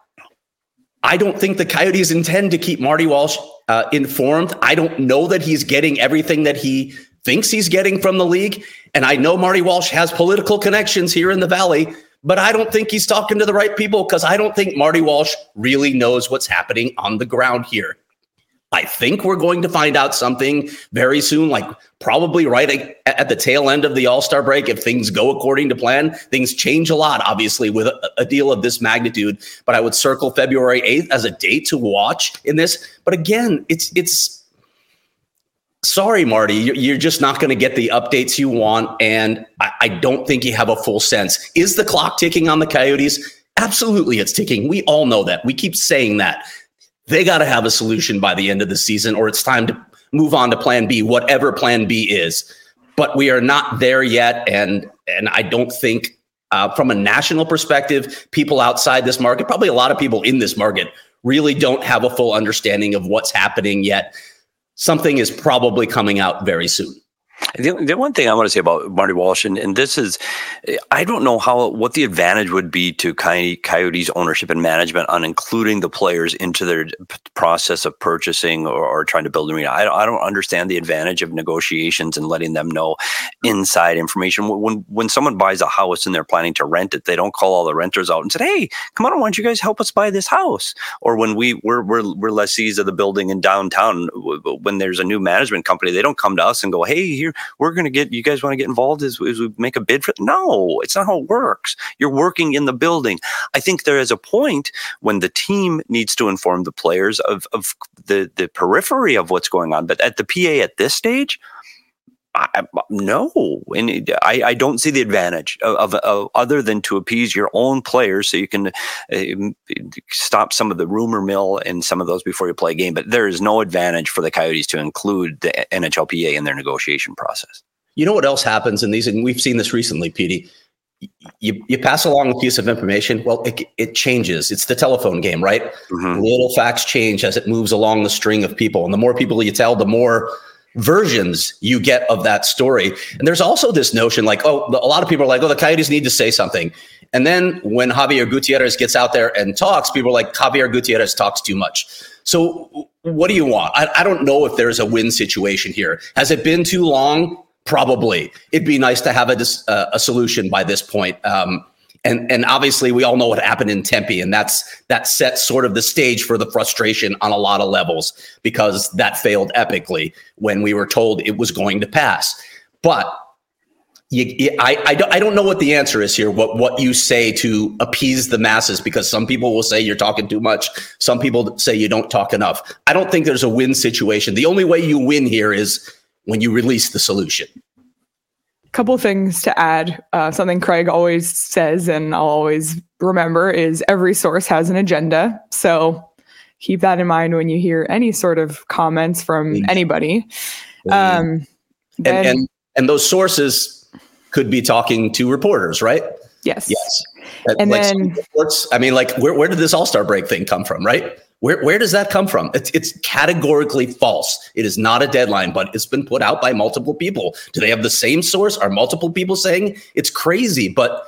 I don't think the Coyotes intend to keep Marty Walsh uh, informed. I don't know that he's getting everything that he thinks he's getting from the league. And I know Marty Walsh has political connections here in the Valley, but I don't think he's talking to the right people, because I don't think Marty Walsh really knows what's happening on the ground here. I think we're going to find out something very soon, like probably right at the tail end of the All-Star break. If things go according to plan, things change a lot, obviously, with a, a deal of this magnitude. But I would circle February eighth as a date to watch in this. But again, it's it's sorry, Marty, you're just not going to get the updates you want. And I, I don't think you have a full sense. Is the clock ticking on the Coyotes? Absolutely, it's ticking. We all know that. We keep saying that. They got to have a solution by the end of the season, or it's time to move on to plan B, whatever plan B is. But we are not there yet. And, and I don't think uh, from a national perspective, people outside this market, probably a lot of people in this market, really don't have a full understanding of what's happening yet. Something is probably coming out very soon. The, the one thing I want to say about Marty Walsh, and, and this is, I don't know how what the advantage would be to Coyotes ownership and management on including the players into their process of purchasing or, or trying to build an arena. I don't, I don't understand the advantage of negotiations and letting them know inside information. When when someone buys a house and they're planning to rent it, they don't call all the renters out and say, "Hey, come on, why don't you guys help us buy this house?" Or when we we're we're, we're lessees of the building in downtown, when there's a new management company, they don't come to us and go, "Hey, here, we're going to get, you guys want to get involved as, as we make a bid for it?" No, it's not how it works. You're working in the building. I think there is a point when the team needs to inform the players of, of the, the periphery of what's going on. But at the P A at this stage, I, no, and it, I, I don't see the advantage of, of, of other than to appease your own players so you can uh, stop some of the rumor mill and some of those before you play a game. But there is no advantage for the Coyotes to include the N H L P A in their negotiation process. You know what else happens in these, and we've seen this recently, Petey. You you pass along a piece of information. Well, it it changes. It's the telephone game, right? Mm-hmm. Little facts change as it moves along the string of people, and the more people you tell, the more versions you get of that story. And there's also this notion like, oh, a lot of people are like, oh, the Coyotes need to say something. And then when Javier Gutierrez gets out there and talks, people are like, Javier Gutierrez talks too much. So what do you want? I, I don't know if there's a win situation here. Has it been too long? Probably. It'd be nice to have a, uh, a solution by this point. Um, And and obviously we all know what happened in Tempe, and that's that set sort of the stage for the frustration on a lot of levels because that failed epically when we were told it was going to pass. But you, you, I I don't I don't know what the answer is here. What what you say to appease the masses, because some people will say you're talking too much. Some people say you don't talk enough. I don't think there's a win situation. The only way you win here is when you release the solution. Couple things to add. Uh, something Craig always says, and I'll always remember, is every source has an agenda. So keep that in mind when you hear any sort of comments from mm-hmm. anybody. Um, and, and, and and those sources could be talking to reporters, right? Yes. Yes. And like then reports, I mean, like where where did this All-Star break thing come from, right? Where where does that come from? It's, it's categorically false. It is not a deadline, but it's been put out by multiple people. Do they have the same source? Are multiple people saying it's crazy? But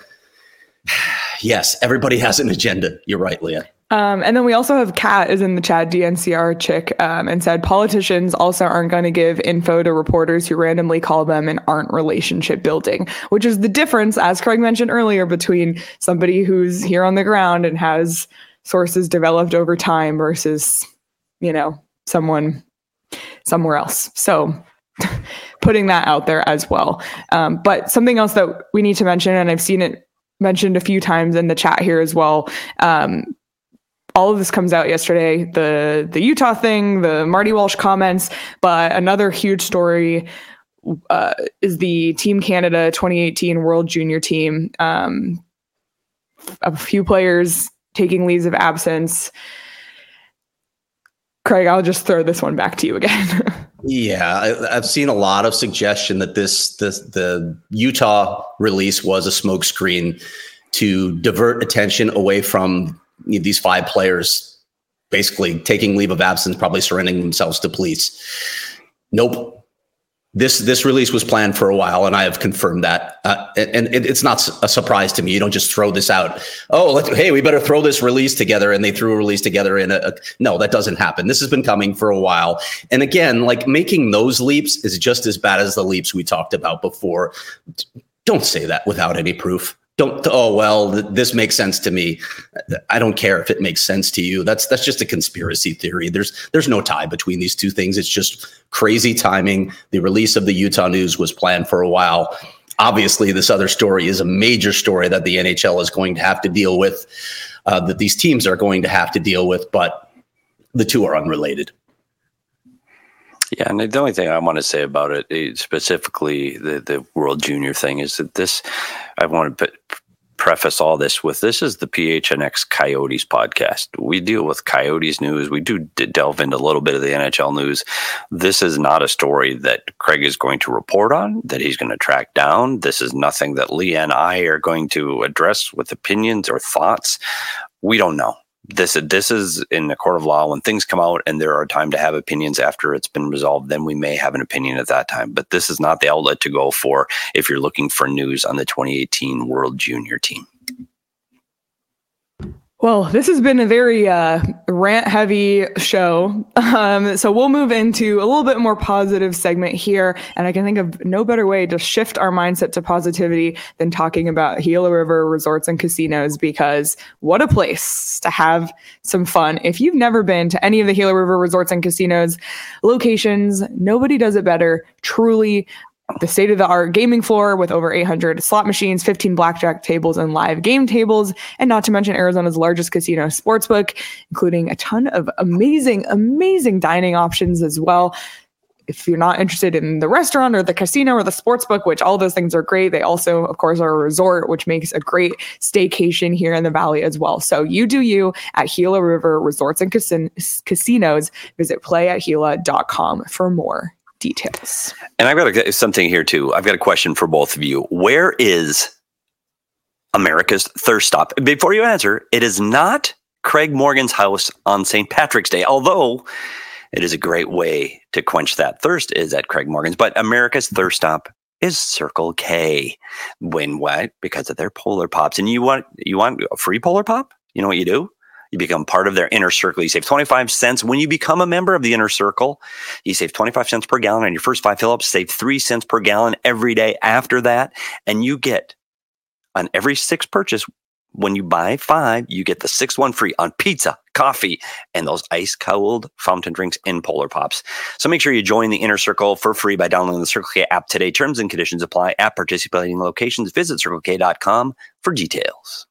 yes, everybody has an agenda. You're right, Leah. Um, and then we also have Kat is in the chat, D N C R chick, um, and said politicians also aren't going to give info to reporters who randomly call them and aren't relationship building, which is the difference, as Craig mentioned earlier, between somebody who's here on the ground and has sources developed over time versus, you know, someone somewhere else. So putting that out there as well. Um, but something else that we need to mention, and I've seen it mentioned a few times in the chat here as well. Um, all of this comes out yesterday, the, the Utah thing, the Marty Walsh comments, but another huge story uh, is the Team Canada twenty eighteen World Junior Team. Um, a few players taking leaves of absence. Craig, I'll just throw this one back to you again. Yeah, I, I've seen a lot of suggestion that this, this the Utah release was a smokescreen to divert attention away from these five players basically taking leave of absence, probably surrendering themselves to police. Nope. This this release was planned for a while, and I have confirmed that. Uh, and it, it's not a surprise to me. You don't just throw this out. Oh, let's, hey, we better throw this release together, and they threw a release together in a, a. No, that doesn't happen. This has been coming for a while. And again, like making those leaps is just as bad as the leaps we talked about before. Don't say that without any proof. Don't, oh, well, th- this makes sense to me. I don't care if it makes sense to you. That's that's just a conspiracy theory. There's there's no tie between these two things. It's just crazy timing. The release of the Utah news was planned for a while. Obviously, this other story is a major story that the N H L is going to have to deal with, uh, that these teams are going to have to deal with, but the two are unrelated. Yeah, and the only thing I want to say about it, specifically the, the World Junior thing, is that this, I want to preface all this with this is the P H N X Coyotes podcast. We deal with Coyotes news. We do d- delve into a little bit of the N H L news. This is not a story that Craig is going to report on, that he's going to track down. This is nothing that Lee and I are going to address with opinions or thoughts. We don't know. This, this is in the court of law. When things come out and there are time to have opinions after it's been resolved, then we may have an opinion at that time. But this is not the outlet to go for if you're looking for news on the twenty eighteen World Junior team. Well, this has been a very uh, rant-heavy show, um, so we'll move into a little bit more positive segment here, and I can think of no better way to shift our mindset to positivity than talking about Gila River Resorts and Casinos, because what a place to have some fun. If you've never been to any of the Gila River Resorts and Casinos locations, nobody does it better. Truly, the state-of-the-art gaming floor with over eight hundred slot machines, fifteen blackjack tables, and live game tables, and not to mention Arizona's largest casino sportsbook, including a ton of amazing, amazing dining options as well. If you're not interested in the restaurant or the casino or the sportsbook, which all those things are great, they also, of course, are a resort, which makes a great staycation here in the Valley as well. So you do you at Gila River Resorts and Casin- Casinos. Visit play at gila dot com for more details. And I've got a, something here too. I've got a question for both of you. Where is America's thirst stop? Before you answer, it is not Craig Morgan's house on Saint Patrick's Day, although it is a great way to quench that thirst is at Craig Morgan's. But America's thirst stop is Circle K. When what? Because of their Polar Pops. And you want you want a free Polar Pop? You know what you do? You become part of their inner circle. You save twenty-five cents. When you become a member of the inner circle, you save twenty-five cents per gallon on your first five fill-ups, save three cents per gallon every day after that. And you get on every six purchase, when you buy five, you get the sixth one free on pizza, coffee, and those ice-cold fountain drinks and Polar Pops. So make sure you join the inner circle for free by downloading the Circle K app today. Terms and conditions apply at participating locations. Visit circle k dot com for details.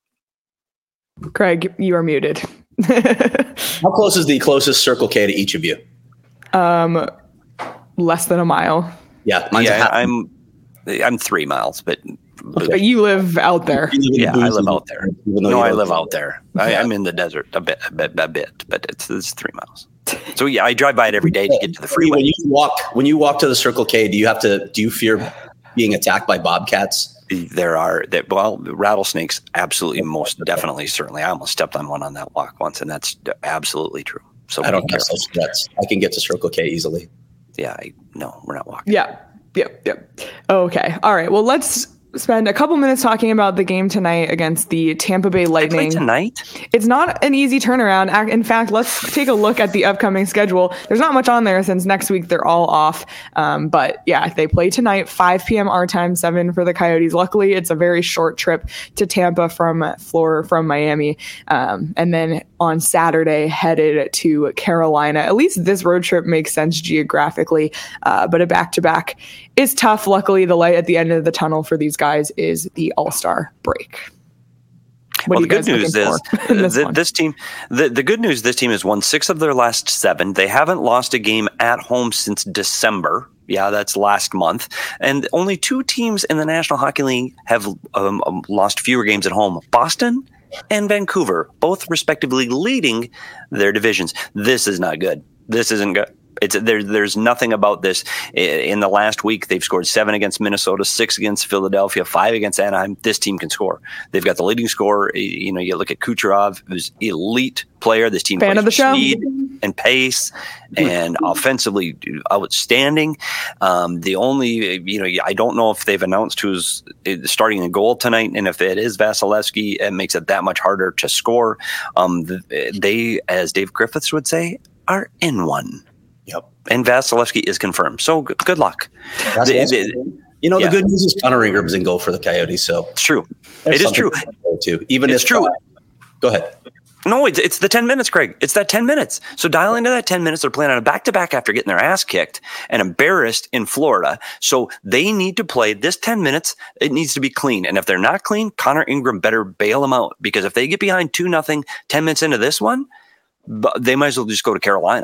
Craig, you are muted. How close is the closest Circle K to each of you? Um, less than a mile. Yeah, mine's yeah, a half. I'm I'm three miles, but, but But you live out there. yeah, I live out there. No, I live there. out there. I, I'm in the desert a bit, a bit, a bit, but it's, it's three miles. So yeah, I drive by it every day to get to the freeway. When you walk, when you walk to the Circle K, do you have to? Do you fear being attacked by bobcats? There are that well rattlesnakes. Absolutely, most definitely, certainly. I almost stepped on one on that walk once, and that's absolutely true. So I don't have such threats. I can get to Circle K easily. Yeah, I, no, we're not walking. Yeah. Yep. Yep. Okay. All right. Well, let's spend a couple minutes talking about the game tonight against the Tampa Bay Lightning. Tonight? It's not an easy turnaround. In fact, let's take a look at the upcoming schedule. There's not much on there since next week they're all off. Um, but yeah, they play tonight, five p.m. our time, seven for the Coyotes. Luckily, it's a very short trip to Tampa from Florida, from Miami. Um, and then on Saturday, headed to Carolina. At least this road trip makes sense geographically, uh, but a back-to-back is tough. Luckily, the light at the end of the tunnel for these guys is the All-Star break. What well, the good news is this, th- this team. The, the good news, this team has won six of their last seven. They haven't lost a game at home since December. Yeah, that's last month. And only two teams in the National Hockey League have um, um, lost fewer games at home: Boston and Vancouver, both respectively leading their divisions. This is not good. This isn't good. It's there. There's nothing about this. In the last week, they've scored seven against Minnesota, six against Philadelphia, five against Anaheim. This team can score. They've got the leading scorer. You know, you look at Kucherov, who's elite player. This team fan plays of the show, speed and pace, and offensively outstanding. Um, the only, you know, I don't know if they've announced who's starting in goal tonight, and if it is Vasilevsky, it makes it that much harder to score. Um, they, as Dave Griffiths would say, are in one. Yep. And Vasilevsky is confirmed. So good, good luck. The, the, you know, yeah. the good news is Connor Ingram's in goal for the Coyotes. So it's true. It is true. Too. Even it's if, true. Uh, go ahead. No, it's, it's the ten minutes, Craig. It's that ten minutes. So dial into that ten minutes. They're playing on a back-to-back after getting their ass kicked and embarrassed in Florida. So they need to play this ten minutes. It needs to be clean. And if they're not clean, Connor Ingram better bail them out, because if they get behind two nothing ten minutes into this one, they might as well just go to Carolina.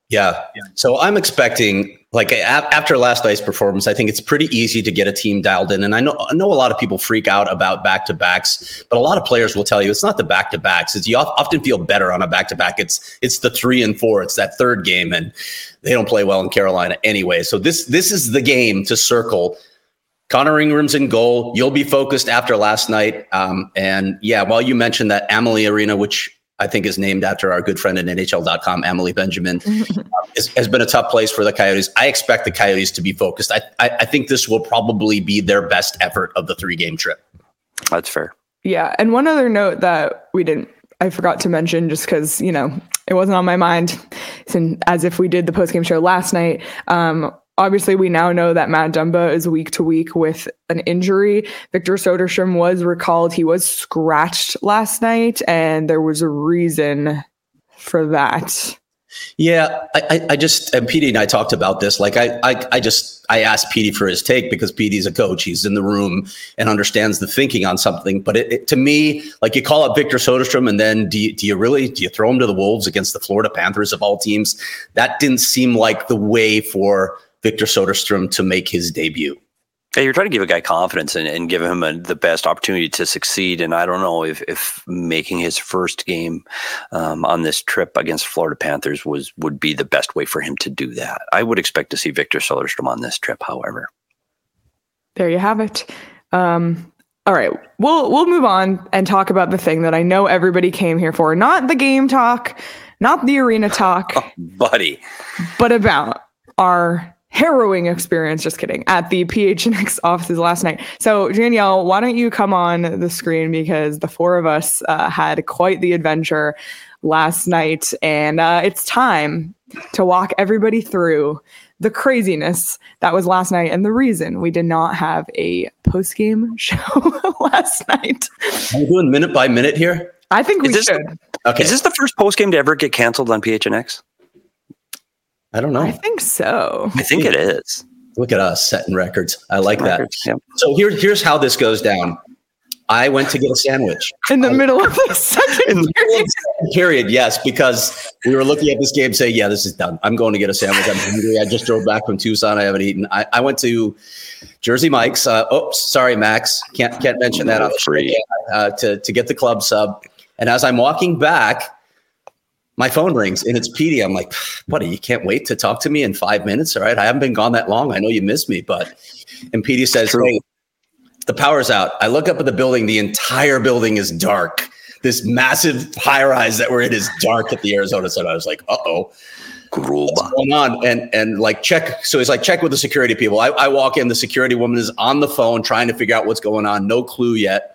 Yeah. So I'm expecting, like, a- after last night's performance, I think it's pretty easy to get a team dialed in. And I know, I know a lot of people freak out about back-to-backs, but a lot of players will tell you it's not the back-to-backs. It's, you often feel better on a back-to-back. It's it's the three and four. It's that third game, and they don't play well in Carolina anyway. So this this is the game to circle. Connor Ingram's in goal. You'll be focused after last night. Um, and yeah, while you mentioned that Amalie Arena, which I think is named after our good friend at N H L dot com, Emily Benjamin, um, is, has been a tough place for the Coyotes. I expect the Coyotes to be focused. I, I, I think this will probably be their best effort of the three-game trip. That's fair. Yeah. And one other note that we didn't, I forgot to mention just because, you know, it wasn't on my mind, since, as if we did the postgame show last night. Um, Obviously, we now know that Matt Dumba is week to week with an injury. Victor Soderstrom was recalled. He was scratched last night, and there was a reason for that. Yeah, I, I, I just, and Petey and I talked about this. Like, I, I, I just, I asked Petey for his take because Petey's a coach. He's in the room and understands the thinking on something. But it, it, to me, like, you call up Victor Soderstrom, and then do you, do you really, do you throw him to the Wolves against the Florida Panthers of all teams? That didn't seem like the way for Victor Soderstrom to make his debut. Yeah, you're trying to give a guy confidence and, and give him a, the best opportunity to succeed. And I don't know if, if making his first game um, on this trip against Florida Panthers was would be the best way for him to do that. I would expect to see Victor Soderstrom on this trip, however. There you have it. Um, all right, we'll we'll move on and talk about the thing that I know everybody came here for. Not the game talk, not the arena talk, oh, buddy, but about our harrowing experience, just kidding, at the P H N X offices last night. So Danielle, why don't you come on the screen, because the four of us uh, had quite the adventure last night, and uh, it's time to walk everybody through the craziness that was last night and the reason we did not have a post-game show last night. Are we doing minute by minute here? I think we is this, should. Okay. Is this the first post game to ever get canceled on P H N X? I don't know. I think so. I think it is. Look at us setting records. I like Records, that. yeah. So here, here's how this goes down. I went to get a sandwich. In the I, middle of the second in the middle period. of the second period, yes, because we were looking at this game saying, yeah, this is done. I'm going to get a sandwich. I'm hungry. I just drove back from Tucson. I haven't eaten. I, I went to Jersey Mike's. Uh, oops, sorry, Max. Can't can't mention that on the Free. show, uh, to, to get the club sub. And as I'm walking back, my phone rings and it's Petey. I'm like, buddy, you can't wait to talk to me in five minutes. All right. I haven't been gone that long. I know you miss me, but, and Petey says, hey, the power's out. I look up at the building. The entire building is dark. This massive high rise that we're in is dark at the Arizona Sun. I was like, uh-oh, what's going on? And, and like, check. So he's like, check with the security people. I, I walk in, the security woman is on the phone trying to figure out what's going on. No clue yet.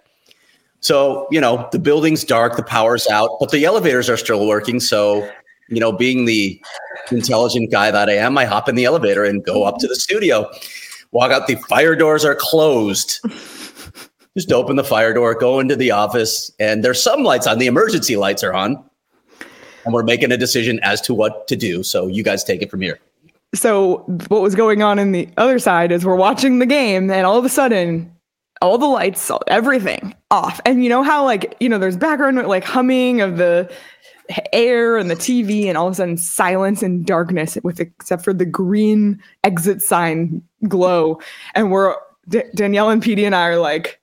So, you know, the building's dark, the power's out, but the elevators are still working. So, you know, being the intelligent guy that I am, I hop in the elevator and go up to the studio. Walk out, the fire doors are closed. Just open the fire door, go into the office, and there's some lights on. The emergency lights are on. And we're making a decision as to what to do. So you guys take it from here. So what was going on in the other side is we're watching the game, and all of a sudden, all the lights, everything off. And you know how, like, you know, there's background like humming of the air and the T V, and all of a sudden silence and darkness with except for the green exit sign glow. And we're D- Danielle and Petey and I are like,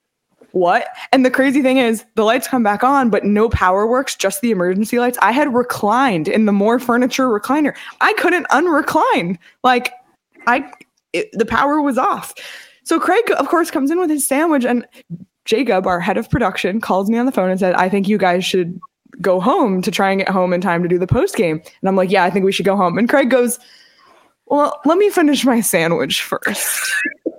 what? And the crazy thing is the lights come back on, but no power works, just the emergency lights. I had reclined in the More Furniture recliner. I couldn't unrecline. Like I, it, the power was off. So Craig, of course, comes in with his sandwich, and Jacob, our head of production, calls me on the phone and said, I think you guys should go home to try and get home in time to do the post game. And I'm like, yeah, I think we should go home. And Craig goes, well, let me finish my sandwich first.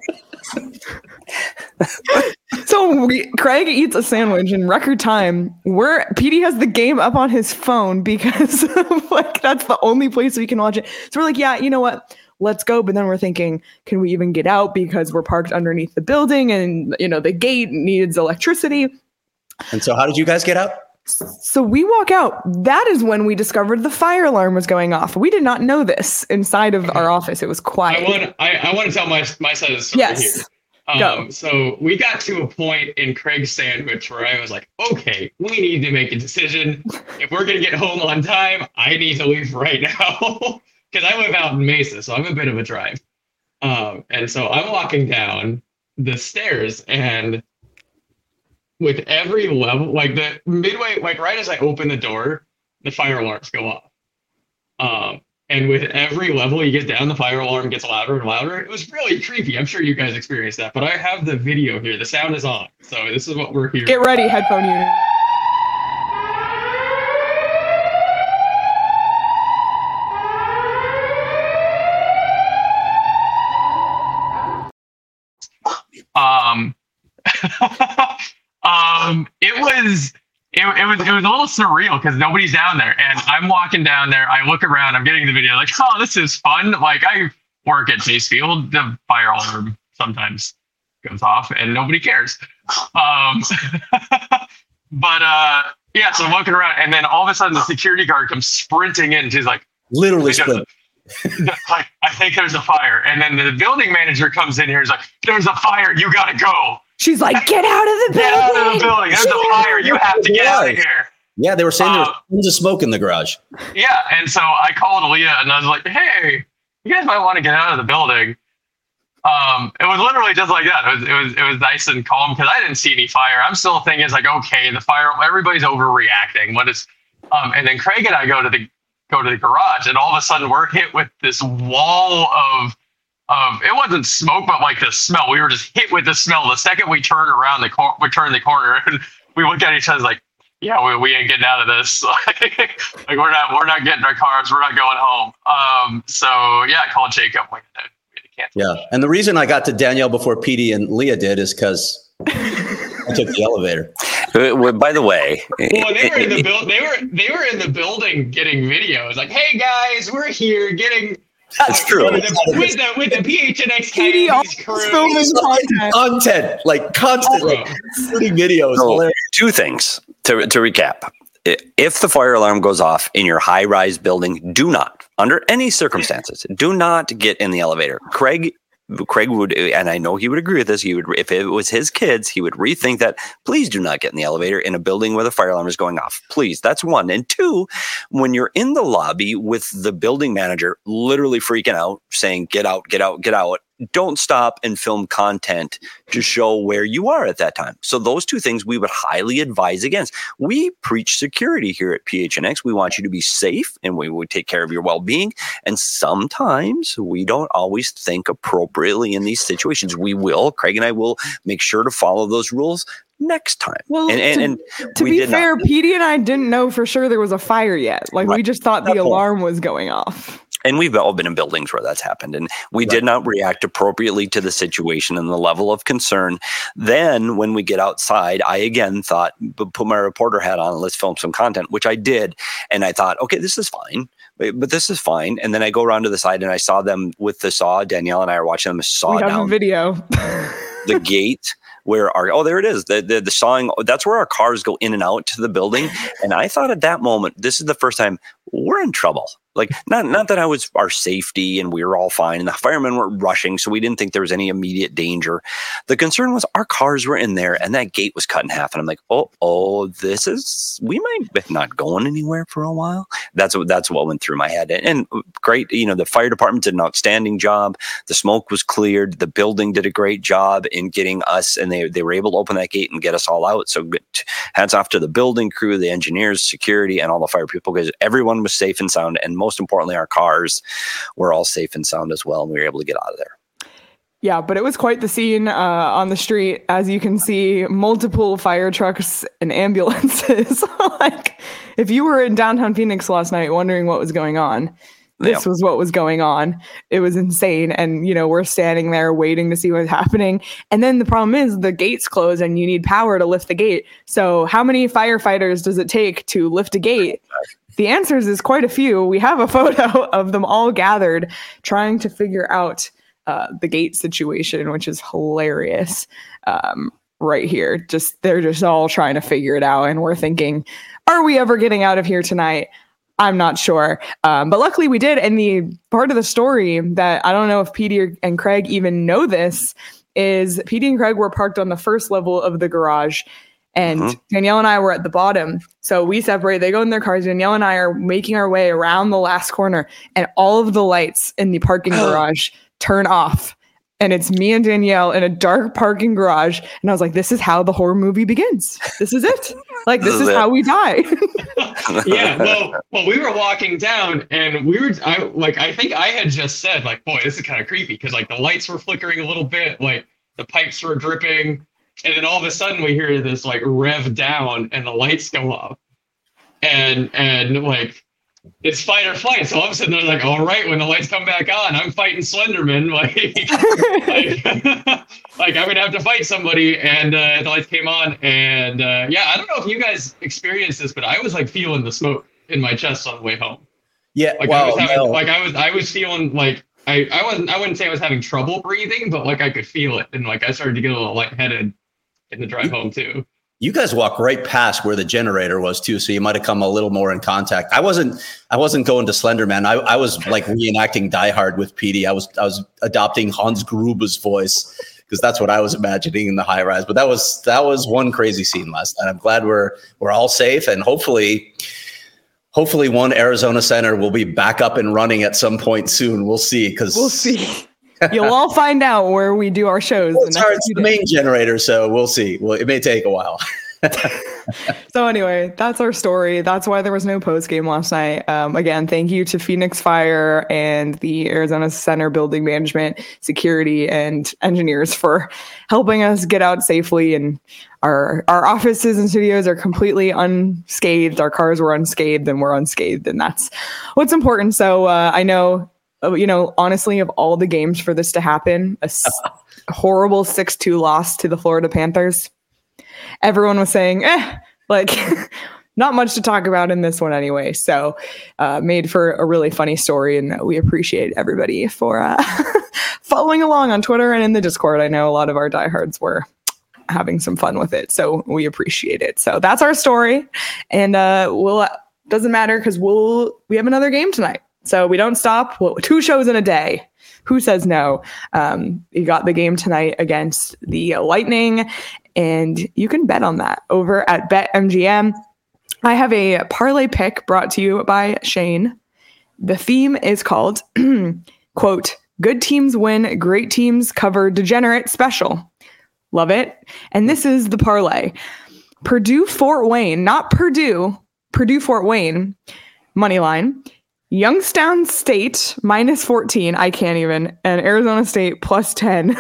So we, Craig eats a sandwich in record time. We're Petey has the game up on his phone because like that's the only place we can watch it. So we're like, yeah, you know what? Let's go. But then we're thinking, can we even get out because we're parked underneath the building and, you know, the gate needs electricity. And so how did you guys get out? So we walk out. That is when we discovered the fire alarm was going off. We did not know this inside of our office. It was quiet. I want I, I want to tell my my side of the story Yes. here. Um, so we got to a point in Craig's sandwich where I was like, okay, we need to make a decision. If we're going to get home on time, I need to leave right now because I live out in Mesa, so I'm a bit of a drive. Um, and so I'm walking down the stairs, and with every level, like the midway, like right as I open the door, the fire alarms go off. Um, And with every level you get down, the fire alarm gets louder and louder. It was really creepy. I'm sure you guys experienced that, but I have the video here. The sound is on. So this is what we're here. Get ready, headphone unit. Um, um, it was... It, it was it was a little surreal because nobody's down there, and I'm walking down there. I look around. I'm getting the video. Like, oh, this is fun. Like, I work at Chase Field. The fire alarm sometimes goes off, and nobody cares. Um, but uh, yeah, so I'm walking around, and then all of a sudden, the security guard comes sprinting in. She's like, literally sprint. Like, I think there's a fire, and then the building manager comes in here. He's like, "There's a fire. You gotta go." She's like, get out of the building. Get out of the building. There's a fire. You have to get out of here. Yeah, they were saying there was Um, tons of smoke in the garage. Yeah, and so I called Leah and I was like, hey, you guys might want to get out of the building. Um, it was literally just like that. It was it was it was nice and calm because I didn't see any fire. I'm still thinking it's like, okay, the fire, everybody's overreacting. What is um and then Craig and I go to the go to the garage, and all of a sudden we're hit with this wall of Um, it wasn't smoke, but like the smell. We were just hit with the smell. The second we turned around the cor- we turned the corner, and we looked at each other like, "Yeah, we, we ain't getting out of this. like we're not we're not getting our cars. We're not going home." Um, so yeah, I called Jacob. Like, we can't. Yeah, and the reason I got to Danielle before Petey and Leah did is because I took the elevator. Uh, well, by the way, Well, they were in the build. They were they were in the building getting videos. Like, hey guys, we're here getting. That's true. With the, with the, with the P H N X Petey Coyotes always crew. filming content. Content, like constantly, shooting videos. So, Hilarious. two things to, to recap. If the fire alarm goes off in your high-rise building, do not, under any circumstances, do not get in the elevator. Craig Craig would, and I know he would agree with this, he would, if it was his kids, he would rethink that. Please do not get in the elevator in a building where the fire alarm is going off. Please. That's one. And two, when you're in the lobby with the building manager literally freaking out, saying, get out, get out, get out, don't stop and film content to show where you are at that time. So those two things we would highly advise against. We preach security here at P H N X. We want you to be safe, and we would take care of your well-being. And sometimes we don't always think appropriately in these situations. We will, Craig and I will make sure to follow those rules next time. Well, and, and, to, and to we be did fair, not. Petey and I didn't know for sure there was a fire yet. Like, Right. we just thought the That point. alarm was going off. And we've all been in buildings where that's happened, and we Right. did not react appropriately to the situation and the level of concern. Then when we get outside, I again thought, put my reporter hat on, let's film some content, which I did. And I thought, okay, this is fine, but this is fine. And then I go around to the side and I saw them with the saw. Danielle and I are watching them saw We have a down video. the gate where our, oh, there it is. The, the, the sawing, that's where our cars go in and out to the building. And I thought at that moment, this is the first time we're in trouble. Like, not not that I was our safety and we were all fine and the firemen were rushing, so we didn't think there was any immediate danger. The concern was our cars were in there and that gate was cut in half. And I'm like, oh, oh, this is, we might be not going anywhere for a while. That's what, that's what went through my head. And, and great, you know, the fire department did an outstanding job. The smoke was cleared. The building did a great job in getting us, and they, they were able to open that gate and get us all out. So hats off to the building crew, the engineers, security, and all the fire people, because everyone was safe and sound. And most importantly, our cars were all safe and sound as well, and we were able to get out of there. Yeah, but it was quite the scene uh, on the street. As you can see, multiple fire trucks and ambulances. Like, if you were in downtown Phoenix last night wondering what was going on, this Yeah. was what was going on. It was insane. And, you know, we're standing there waiting to see what's happening. And then the problem is the gates close and you need power to lift the gate. So how many firefighters does it take to lift a gate? The answers is quite a few. We have a photo of them all gathered trying to figure out uh, the gate situation, which is hilarious. Um, right here, just they're just all trying to figure it out, and we're thinking, are we ever getting out of here tonight? I'm not sure, um, but luckily we did. And the part of the story that I don't know if Petey and Craig even know this is P D and Craig were parked on the first level of the garage, and mm-hmm. Danielle and I were at the bottom. So we separate. They go in their cars. Danielle and I are making our way around the last corner, and all of the lights in the parking garage turn off. And it's me and Danielle in a dark parking garage. And I was like, this is how the horror movie begins. This is it. Like, this, this is, is how we die. Yeah. Well, well, we were walking down and we were, I like, I think I had just said, like, boy, this is kind of creepy. Cause like the lights were flickering a little bit, like the pipes were dripping. And then all of a sudden we hear this like rev down and the lights go up. And, and like, it's fight or flight. So all of a sudden they're like, all right, when the lights come back on, I'm fighting Slenderman. Like, like, like I'm going to have to fight somebody. And uh, the lights came on. And uh, yeah, I don't know if you guys experienced this, but I was like feeling the smoke in my chest on the way home. Yeah. Like, well, I, was having, no. like I was, I was feeling like, I, I wasn't, I wouldn't say I was having trouble breathing, but like I could feel it. And like I started to get a little lightheaded in the drive home too. You guys walked right past where the generator was too, so you might have come a little more in contact. I wasn't. I wasn't going to Slenderman. I, I was like reenacting Die Hard with P D. I was. I was adopting Hans Gruber's voice because that's what I was imagining in the high rise. But that was that was one crazy scene last night. I'm glad we're we're all safe, and hopefully, hopefully, one Arizona Center will be back up and running at some point soon. We'll see. Because we'll see. You'll all find out where we do our shows. Well, it's the, it's the main generator, so we'll see. Well, it may take a while. So anyway, that's our story. That's why there was no post game last night. Um, again, thank you to Phoenix Fire and the Arizona Center Building Management, security, and engineers for helping us get out safely. And our our offices and studios are completely unscathed. Our cars were unscathed, and we're unscathed, and that's what's important. So uh, I know. You know, honestly, of all the games for this to happen, a s- horrible six two loss to the Florida Panthers. Everyone was saying, eh, like, not much to talk about in this one anyway. So uh, made for a really funny story. And we appreciate everybody for uh, following along on Twitter and in the Discord. I know a lot of our diehards were having some fun with it. So we appreciate it. So that's our story. And uh, we'll doesn't matter because we'll we have another game tonight. So we don't stop. Well, two shows in a day. Who says no? Um, you got the game tonight against the Lightning, and you can bet on that over at BetMGM. I have a parlay pick brought to you by Shane. The theme is called, quote, good teams win, great teams cover degenerate special. Love it. And this is the parlay. Purdue Fort Wayne, not Purdue, Purdue Fort Wayne, money line. Youngstown State minus fourteen. I can't even. And Arizona State plus ten.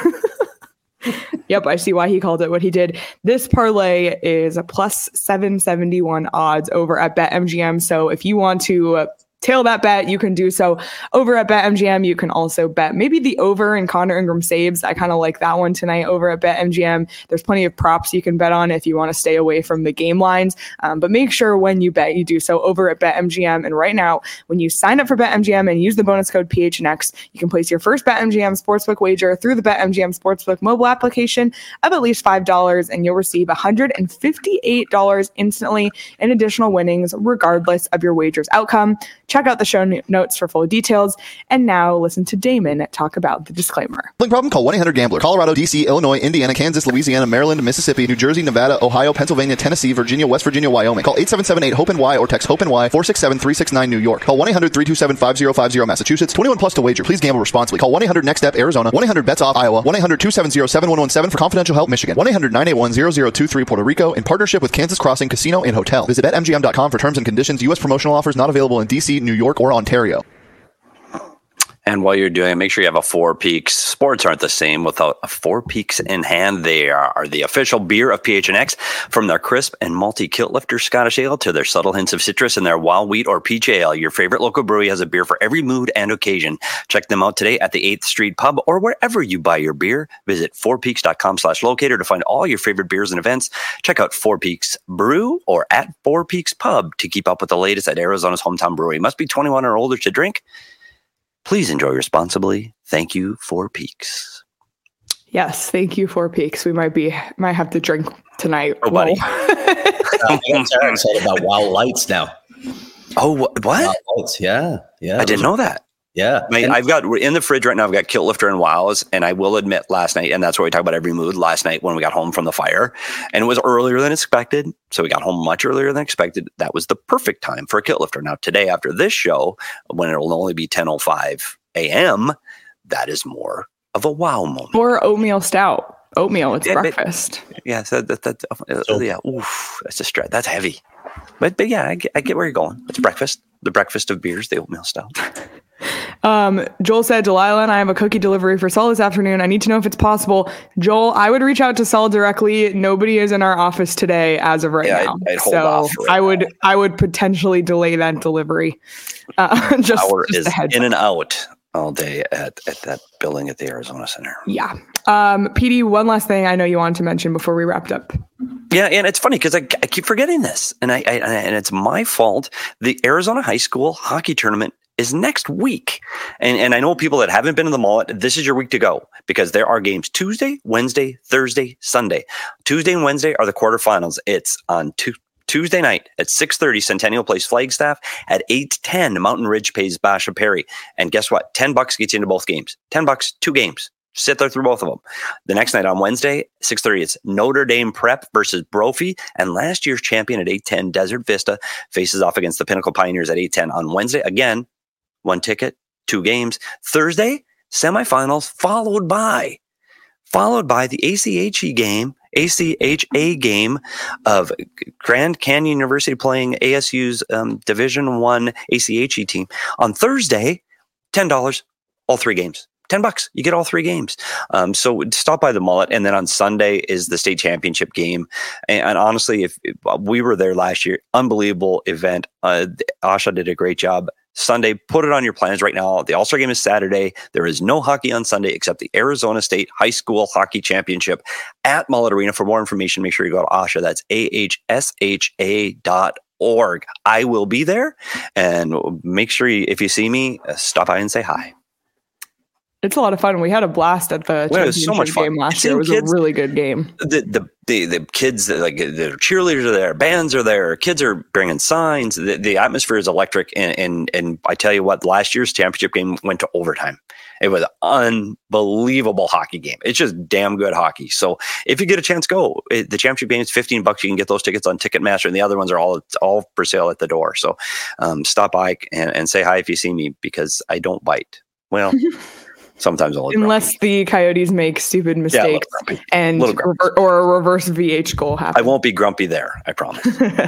Yep, I see why he called it what he did. This parlay is a plus seven seventy-one odds over at BetMGM. So if you want to uh, tail that bet, you can do so over at BetMGM. You can also bet maybe the over in Connor Ingram saves. I kind of like that one tonight over at BetMGM. There's plenty of props you can bet on if you want to stay away from the game lines. Um, but make sure when you bet, you do so over at BetMGM. And right now, when you sign up for BetMGM and use the bonus code P H N X, you can place your first BetMGM Sportsbook wager through the BetMGM Sportsbook mobile application of at least five dollars, and you'll receive one hundred fifty-eight dollars instantly in additional winnings, regardless of your wager's outcome. Check out the show notes for full details. And now listen to Damon talk about the disclaimer. Gambling problem? Call one eight hundred gambler. Colorado, D C, Illinois, Indiana, Kansas, Louisiana, Maryland, Mississippi, New Jersey, Nevada, Ohio, Pennsylvania, Tennessee, Virginia, West Virginia, Wyoming. Call eight seven seven eight hope N Y or text hope N Y four six seven three six nine New York. Call one eight hundred three two seven five zero five zero Massachusetts. twenty-one plus to wager. Please gamble responsibly. Call one eight hundred next step Arizona. one eight hundred bets off Iowa. one eight hundred two seven zero seven one one seven for confidential help Michigan. one eight hundred nine eight one zero zero two three Puerto Rico in partnership with Kansas Crossing Casino and Hotel. Visit bet M G M dot com for terms and conditions. U S promotional offers not available in D C, New York, or Ontario. And while you're doing it, make sure you have a Four Peaks. Sports aren't the same without a Four Peaks in hand. They are the official beer of P H N X. From their crisp and malty kilt lifter Scottish ale to their subtle hints of citrus in their wild wheat or peach ale, your favorite local brewery has a beer for every mood and occasion. Check them out today at the eighth Street Pub or wherever you buy your beer. Visit four peaks dot com slash locator to find all your favorite beers and events. Check out Four Peaks Brew or at Four Peaks Pub to keep up with the latest at Arizona's hometown brewery. Must be twenty-one or older to drink. Please enjoy responsibly. Thank you, Four Peaks. Yes, thank you, Four Peaks. We might be might have to drink tonight. Oh, buddy. I'm excited about Wow Lights now. Oh, what? Wow Lights, yeah, yeah. I didn't know that. Yeah. My, and- I've got in the fridge right now, I've got Kilt Lifter and Wows. And I will admit last night, and that's where we talk about every mood last night when we got home from the fire, and it was earlier than expected. So we got home much earlier than expected. That was the perfect time for a Kilt Lifter. Now today, after this show, when it'll only be ten oh five a.m., that is more of a wow moment. Or oatmeal stout. Oatmeal, it's Yeah, but- breakfast. Yeah, so that, that, uh, So- yeah, oof, that's a stretch. That's heavy. But but yeah, I get, I get where you're going. It's breakfast, the breakfast of beers, the oatmeal stout. Um, Joel said, Delilah and I have a cookie delivery for Saul this afternoon. I need to know if it's possible. Joel, I would reach out to Saul directly. Nobody is in our office today as of right Yeah, I'd- now. I'd hold so off right I would I would potentially delay that delivery. Uh, just, Power just is a heads in up. and out all day at, at that building at the Arizona Center. Yeah. Um, P D, one last thing I know you wanted to mention before we wrapped up. Yeah, and it's funny because I, I keep forgetting this, and I, I and it's my fault. The Arizona High School hockey tournament is next week, and and I know people that haven't been to the mall. This is your week to go because there are games Tuesday, Wednesday, Thursday, Sunday. Tuesday and Wednesday are the quarterfinals. It's on two. Tuesday night at six thirty, Centennial plays Flagstaff. At eight ten, Mountain Ridge pays Basha Perry. And guess what? ten bucks gets you into both games. ten bucks, two games. Sit there through both of them. The next night on Wednesday, six thirty, it's Notre Dame Prep versus Brophy. And last year's champion at eight ten, Desert Vista, faces off against the Pinnacle Pioneers at eight ten on Wednesday. Again, one ticket, two games. Thursday, semifinals, followed by, followed by the A C H E game. A C H A game of Grand Canyon University playing A S U's um, Division One A C H E team on Thursday. ten dollars, all three games. Ten bucks, you get all three games. Um, so stop by the Mullet, and then on Sunday is the state championship game. And, and honestly, if, if we were there last year, unbelievable event. Uh, Asha did a great job. Sunday, put it on your plans right now. The All-Star game is Saturday. There is no hockey on Sunday except the Arizona State High School Hockey Championship at Mullet Arena. For more information, make sure you go to Asha. That's A H S H A dot org. I will be there, and make sure you, if you see me, uh, stop by and say hi. It's a lot of fun. We had a blast at the Well, it was championship so much fun. game last Seeing year. It was kids- a really good game. The the the, the kids, like the cheerleaders are there, bands are there, kids are bringing signs. The, the atmosphere is electric, and, and and I tell you what, last year's championship game went to overtime. It was an unbelievable hockey game. It's just damn good hockey. So if you get a chance, go. It, the championship game is fifteen bucks. You can get those tickets on Ticketmaster, and the other ones are all all for sale at the door. So um, stop by and, and say hi if you see me, because I don't bite. Well. Sometimes I'll Unless the Coyotes make stupid yeah, a mistakes little grumpy. and Little grumpy. rever- or a reverse V H goal happens. I won't be grumpy there. I promise.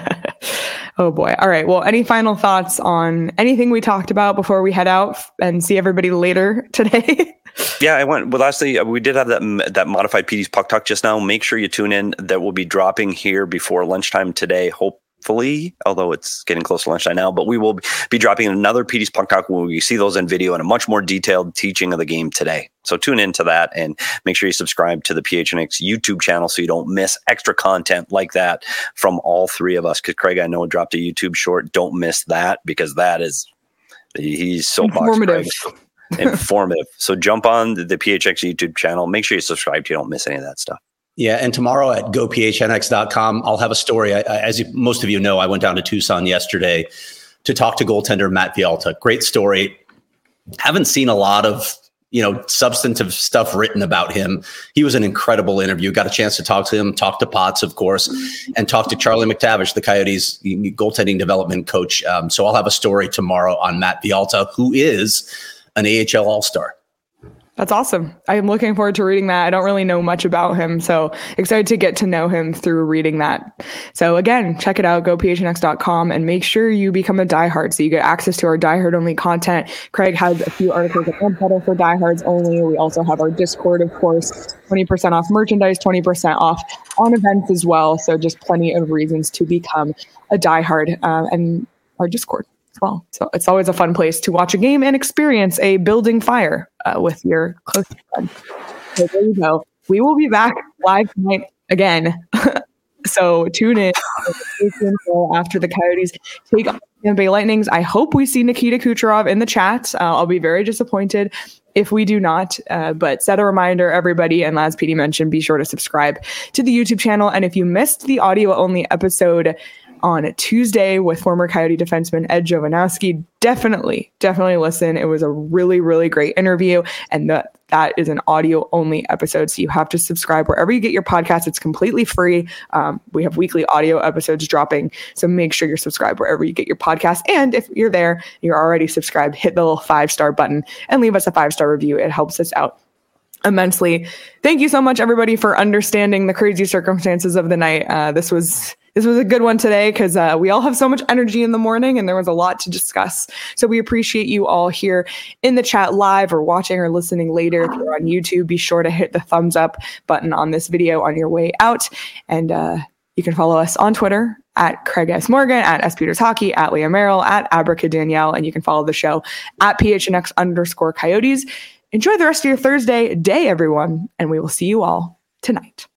Oh boy. All right. Well, any final thoughts on anything we talked about before we head out and see everybody later today? Yeah, I went. Well, lastly, uh, we did have that that modified P D's Puck Talk just now. Make sure you tune in. That will be dropping here before lunchtime today. Hopefully, although it's getting close to lunchtime now, but we will be dropping another P D's Puck Talk when we see those in video and a much more detailed teaching of the game today. So tune into that and make sure you subscribe to the P H N X YouTube channel so you don't miss extra content like that from all three of us. Because Craig, I know, dropped a YouTube short. Don't miss that, because that is he's so Informative. informative. So jump on the, the P H X YouTube channel. Make sure you subscribe so you don't miss any of that stuff. Yeah, and tomorrow at go p h n x dot com, I'll have a story. I, I, as you, most of you know, I went down to Tucson yesterday to talk to goaltender Matt Villalta. Great story. Haven't seen a lot of, you know, substantive stuff written about him. He was an incredible interview. Got a chance to talk to him, talk to Potts, of course, and talk to Charlie McTavish, the Coyotes goaltending development coach. Um, so I'll have a story tomorrow on Matt Villalta, who is an A H L All-Star. That's awesome. I'm looking forward to reading that. I don't really know much about him, so excited to get to know him through reading that. So again, check it out, go p h n x dot com, and make sure you become a diehard so you get access to our diehard only content. Craig has a few articles at Unpedal for diehards only. We also have our Discord, of course, twenty percent off merchandise, twenty percent off on events as well. So just plenty of reasons to become a diehard, uh, and our Discord as well. So it's always a fun place to watch a game and experience a building fire uh, with your close friends. So there you go. We will be back live tonight again. So tune in after the Coyotes take on the Tampa Bay Lightnings. I hope we see Nikita Kucherov in the chat. Uh, I'll be very disappointed if we do not, uh, but set a reminder, everybody, and as P D mentioned, be sure to subscribe to the YouTube channel. And if you missed the audio only episode on Tuesday with former Coyote defenseman Ed Jovanowski. Definitely, definitely listen. It was a really, really great interview, and that that is an audio only episode. So you have to subscribe wherever you get your podcast. It's completely free. Um, we have weekly audio episodes dropping. So make sure you're subscribed wherever you get your podcast. And if you're there, you're already subscribed, hit the little five star button and leave us a five star review. It helps us out immensely. Thank you so much, everybody, for understanding the crazy circumstances of the night. Uh, this was this was a good one today because uh, we all have so much energy in the morning and there was a lot to discuss. So we appreciate you all here in the chat live or watching or listening later. If you're on YouTube, be sure to hit the thumbs up button on this video on your way out. And uh, you can follow us on Twitter at Craig S. Morgan, at S. Peters Hockey, at Leah Merrill, at Abraca Danielle, and you can follow the show at P H N X underscore Coyotes. Enjoy the rest of your Thursday day, everyone, and we will see you all tonight.